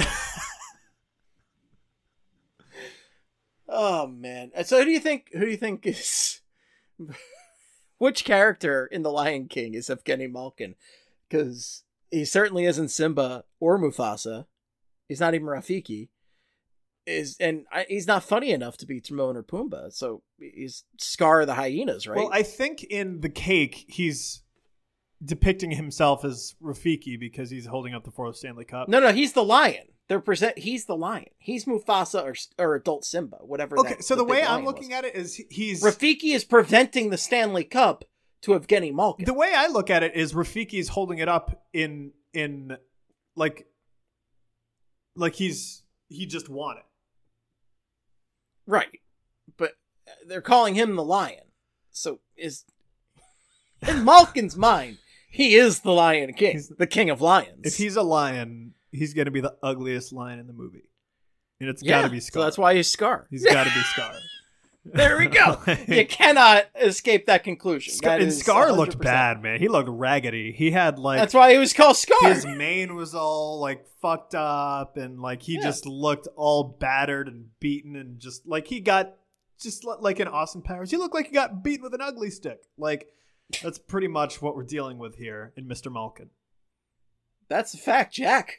Oh, man. So who do you think is... Which character in The Lion King is Evgeny Malkin? Because he certainly isn't Simba or Mufasa. He's not even Rafiki. He's not funny enough to be Timon or Pumbaa. So he's Scar the hyenas, right? Well, I think in The Cake, he's depicting himself as Rafiki because he's holding up the fourth Stanley Cup. No, he's the lion. He's the lion. He's Mufasa or adult Simba, whatever. Okay, so the way I'm looking at it is he's... Rafiki is preventing the Stanley Cup to Evgeny Malkin. The way I look at it is Rafiki is holding it up in like he just won it. Right. But they're calling him the lion. So in Malkin's mind, he is the Lion King. He's the king of lions. If he's a lion, he's going to be the ugliest lion in the movie. And it's got to be Scar. So that's why he's Scar. He's got to be Scar. There we go. You cannot escape that conclusion. Scar looked bad, man. He looked raggedy. He had like... That's why he was called Scar. His mane was all like fucked up and like he just looked all battered and beaten and just like he got just like in Austin Powers. He looked like he got beaten with an ugly stick. Like that's pretty much what we're dealing with here in Mr. Malkin. That's a fact, Jack.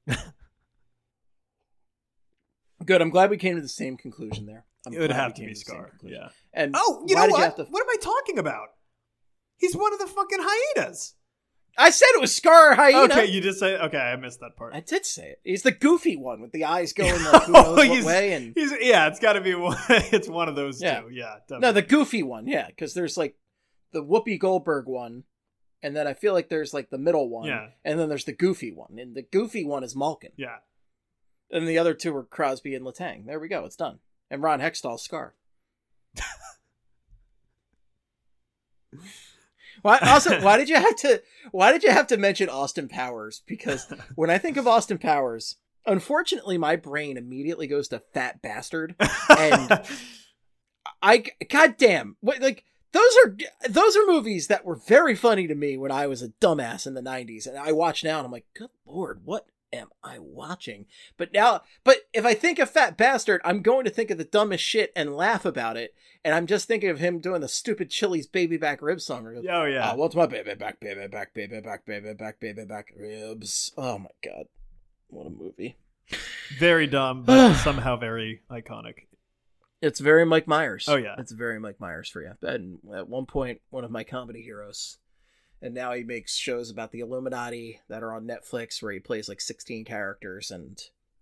Good. I'm glad we came to the same conclusion there. It would have to be Scar. Yeah. And you know what? What am I talking about? He's one of the fucking hyenas. I said it was Scar or hyena. Okay, you just say okay. I missed that part. I did say it. He's the goofy one with the eyes going like who knows what way. And it's got to be one. It's one of those two. Yeah. Definitely. No, the goofy one. Yeah, because there's like the Whoopi Goldberg one, and then I feel like there's like the middle one. Yeah. And then there's the goofy one, and the goofy one is Malkin. Yeah. And the other two are Crosby and Letang. There we go. It's done. And Ron Hextall's Scar. Why did you have to mention Austin Powers? Because when I think of Austin Powers, unfortunately my brain immediately goes to Fat Bastard. And goddamn, like those are movies that were very funny to me when I was a dumbass in the 90s. And I watch now and I'm like, good Lord, what am I watching? But if I think of Fat Bastard, I'm going to think of the dumbest shit and laugh about it. And I'm just thinking of him doing the stupid Chili's baby back rib song. Oh, yeah. What's my baby back, baby back, baby back, baby back, baby back ribs? Oh, my God. What a movie. Very dumb, but somehow very iconic. It's very Mike Myers. Oh, yeah. It's very Mike Myers for you. And at one point, one of my comedy heroes. And now he makes shows about the Illuminati that are on Netflix where he plays like 16 characters. And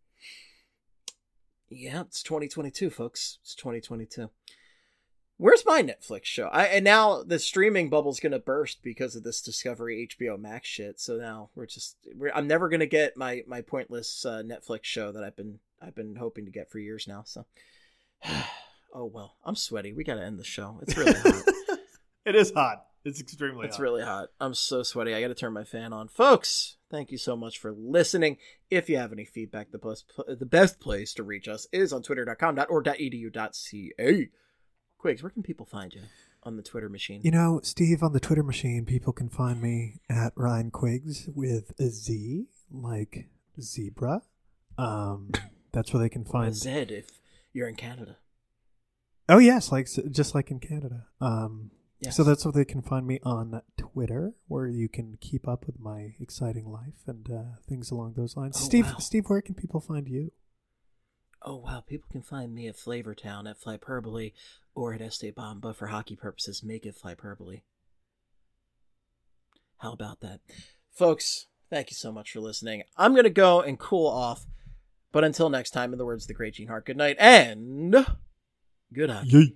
yeah, it's 2022, folks. It's 2022. Where's my Netflix show? And now the streaming bubble's going to burst because of this Discovery HBO Max shit. So now I'm never going to get my pointless Netflix show that I've been hoping to get for years now. So, oh well, I'm sweaty. We got to end the show. It's really hot. It is hot. It's extremely hot. It's really hot. I'm so sweaty. I got to turn my fan on. Folks, thank you so much for listening. If you have any feedback, the best place to reach us is on twitter.com.org.edu.ca. Quigs, where can people find you on the Twitter machine? You know, Steve, on the Twitter machine, people can find me at Ryan Quiggs with a Z, like zebra. That's where they can find... A Z if you're in Canada. Oh, yes, just like in Canada. Yes. So that's where they can find me on Twitter, where you can keep up with my exciting life and things along those lines. Oh, Steve, wow. Steve, where can people find you? Oh, wow. People can find me at Flavortown, at Flyperbole, or at Esteban, but for hockey purposes, make it Flyperbole. How about that? Folks, thank you so much for listening. I'm going to go and cool off, but until next time, in the words of the great Gene Hart, good night and good hockey. Yay.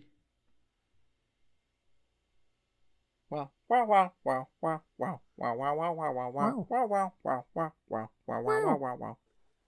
Wow. Wow, wow, wow, wow, wow, wow, wow, wow, wow, wow, wow, wow, wow, wow, wow, wow, wow, wow, wow, wow.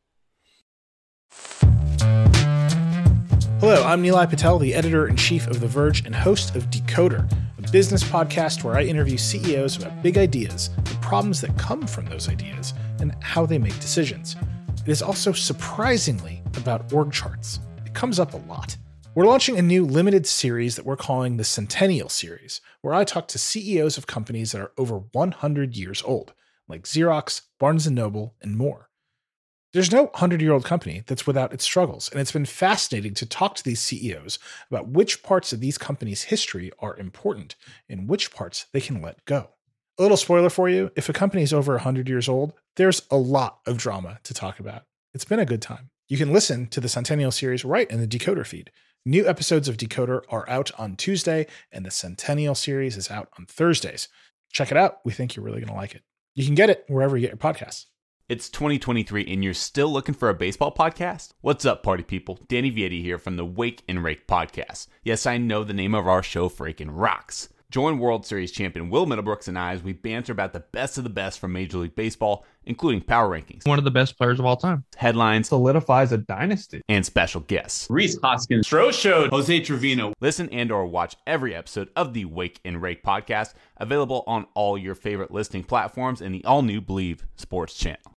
Hello, I'm Nilay Patel, the editor-in-chief of The Verge and host of Decoder, a business podcast where I interview CEOs about big ideas, the problems that come from those ideas, and how they make decisions. It is also surprisingly about org charts. It comes up a lot. We're launching a new limited series that we're calling the Centennial Series, where I talk to CEOs of companies that are over 100 years old, like Xerox, Barnes & Noble, and more. There's no 100-year-old company that's without its struggles, and it's been fascinating to talk to these CEOs about which parts of these companies' history are important and which parts they can let go. A little spoiler for you, if a company is over 100 years old, there's a lot of drama to talk about. It's been a good time. You can listen to the Centennial Series right in the Decoder feed. New episodes of Decoder are out on Tuesday, and the Centennial Series is out on Thursdays. Check it out. We think you're really going to like it. You can get it wherever you get your podcasts. It's 2023 and you're still looking for a baseball podcast? What's up, party people? Danny Vietti here from the Wake and Rake podcast. Yes, I know the name of our show freaking rocks. Join World Series champion Will Middlebrooks and I as we banter about the best of the best from Major League Baseball, including power rankings, one of the best players of all time, headlines, solidifies a dynasty, and special guests. Rhys Hoskins, Stroh showed Jose Trevino. Listen and or watch every episode of the Wake and Rake podcast, available on all your favorite listening platforms and the all-new Believe Sports channel.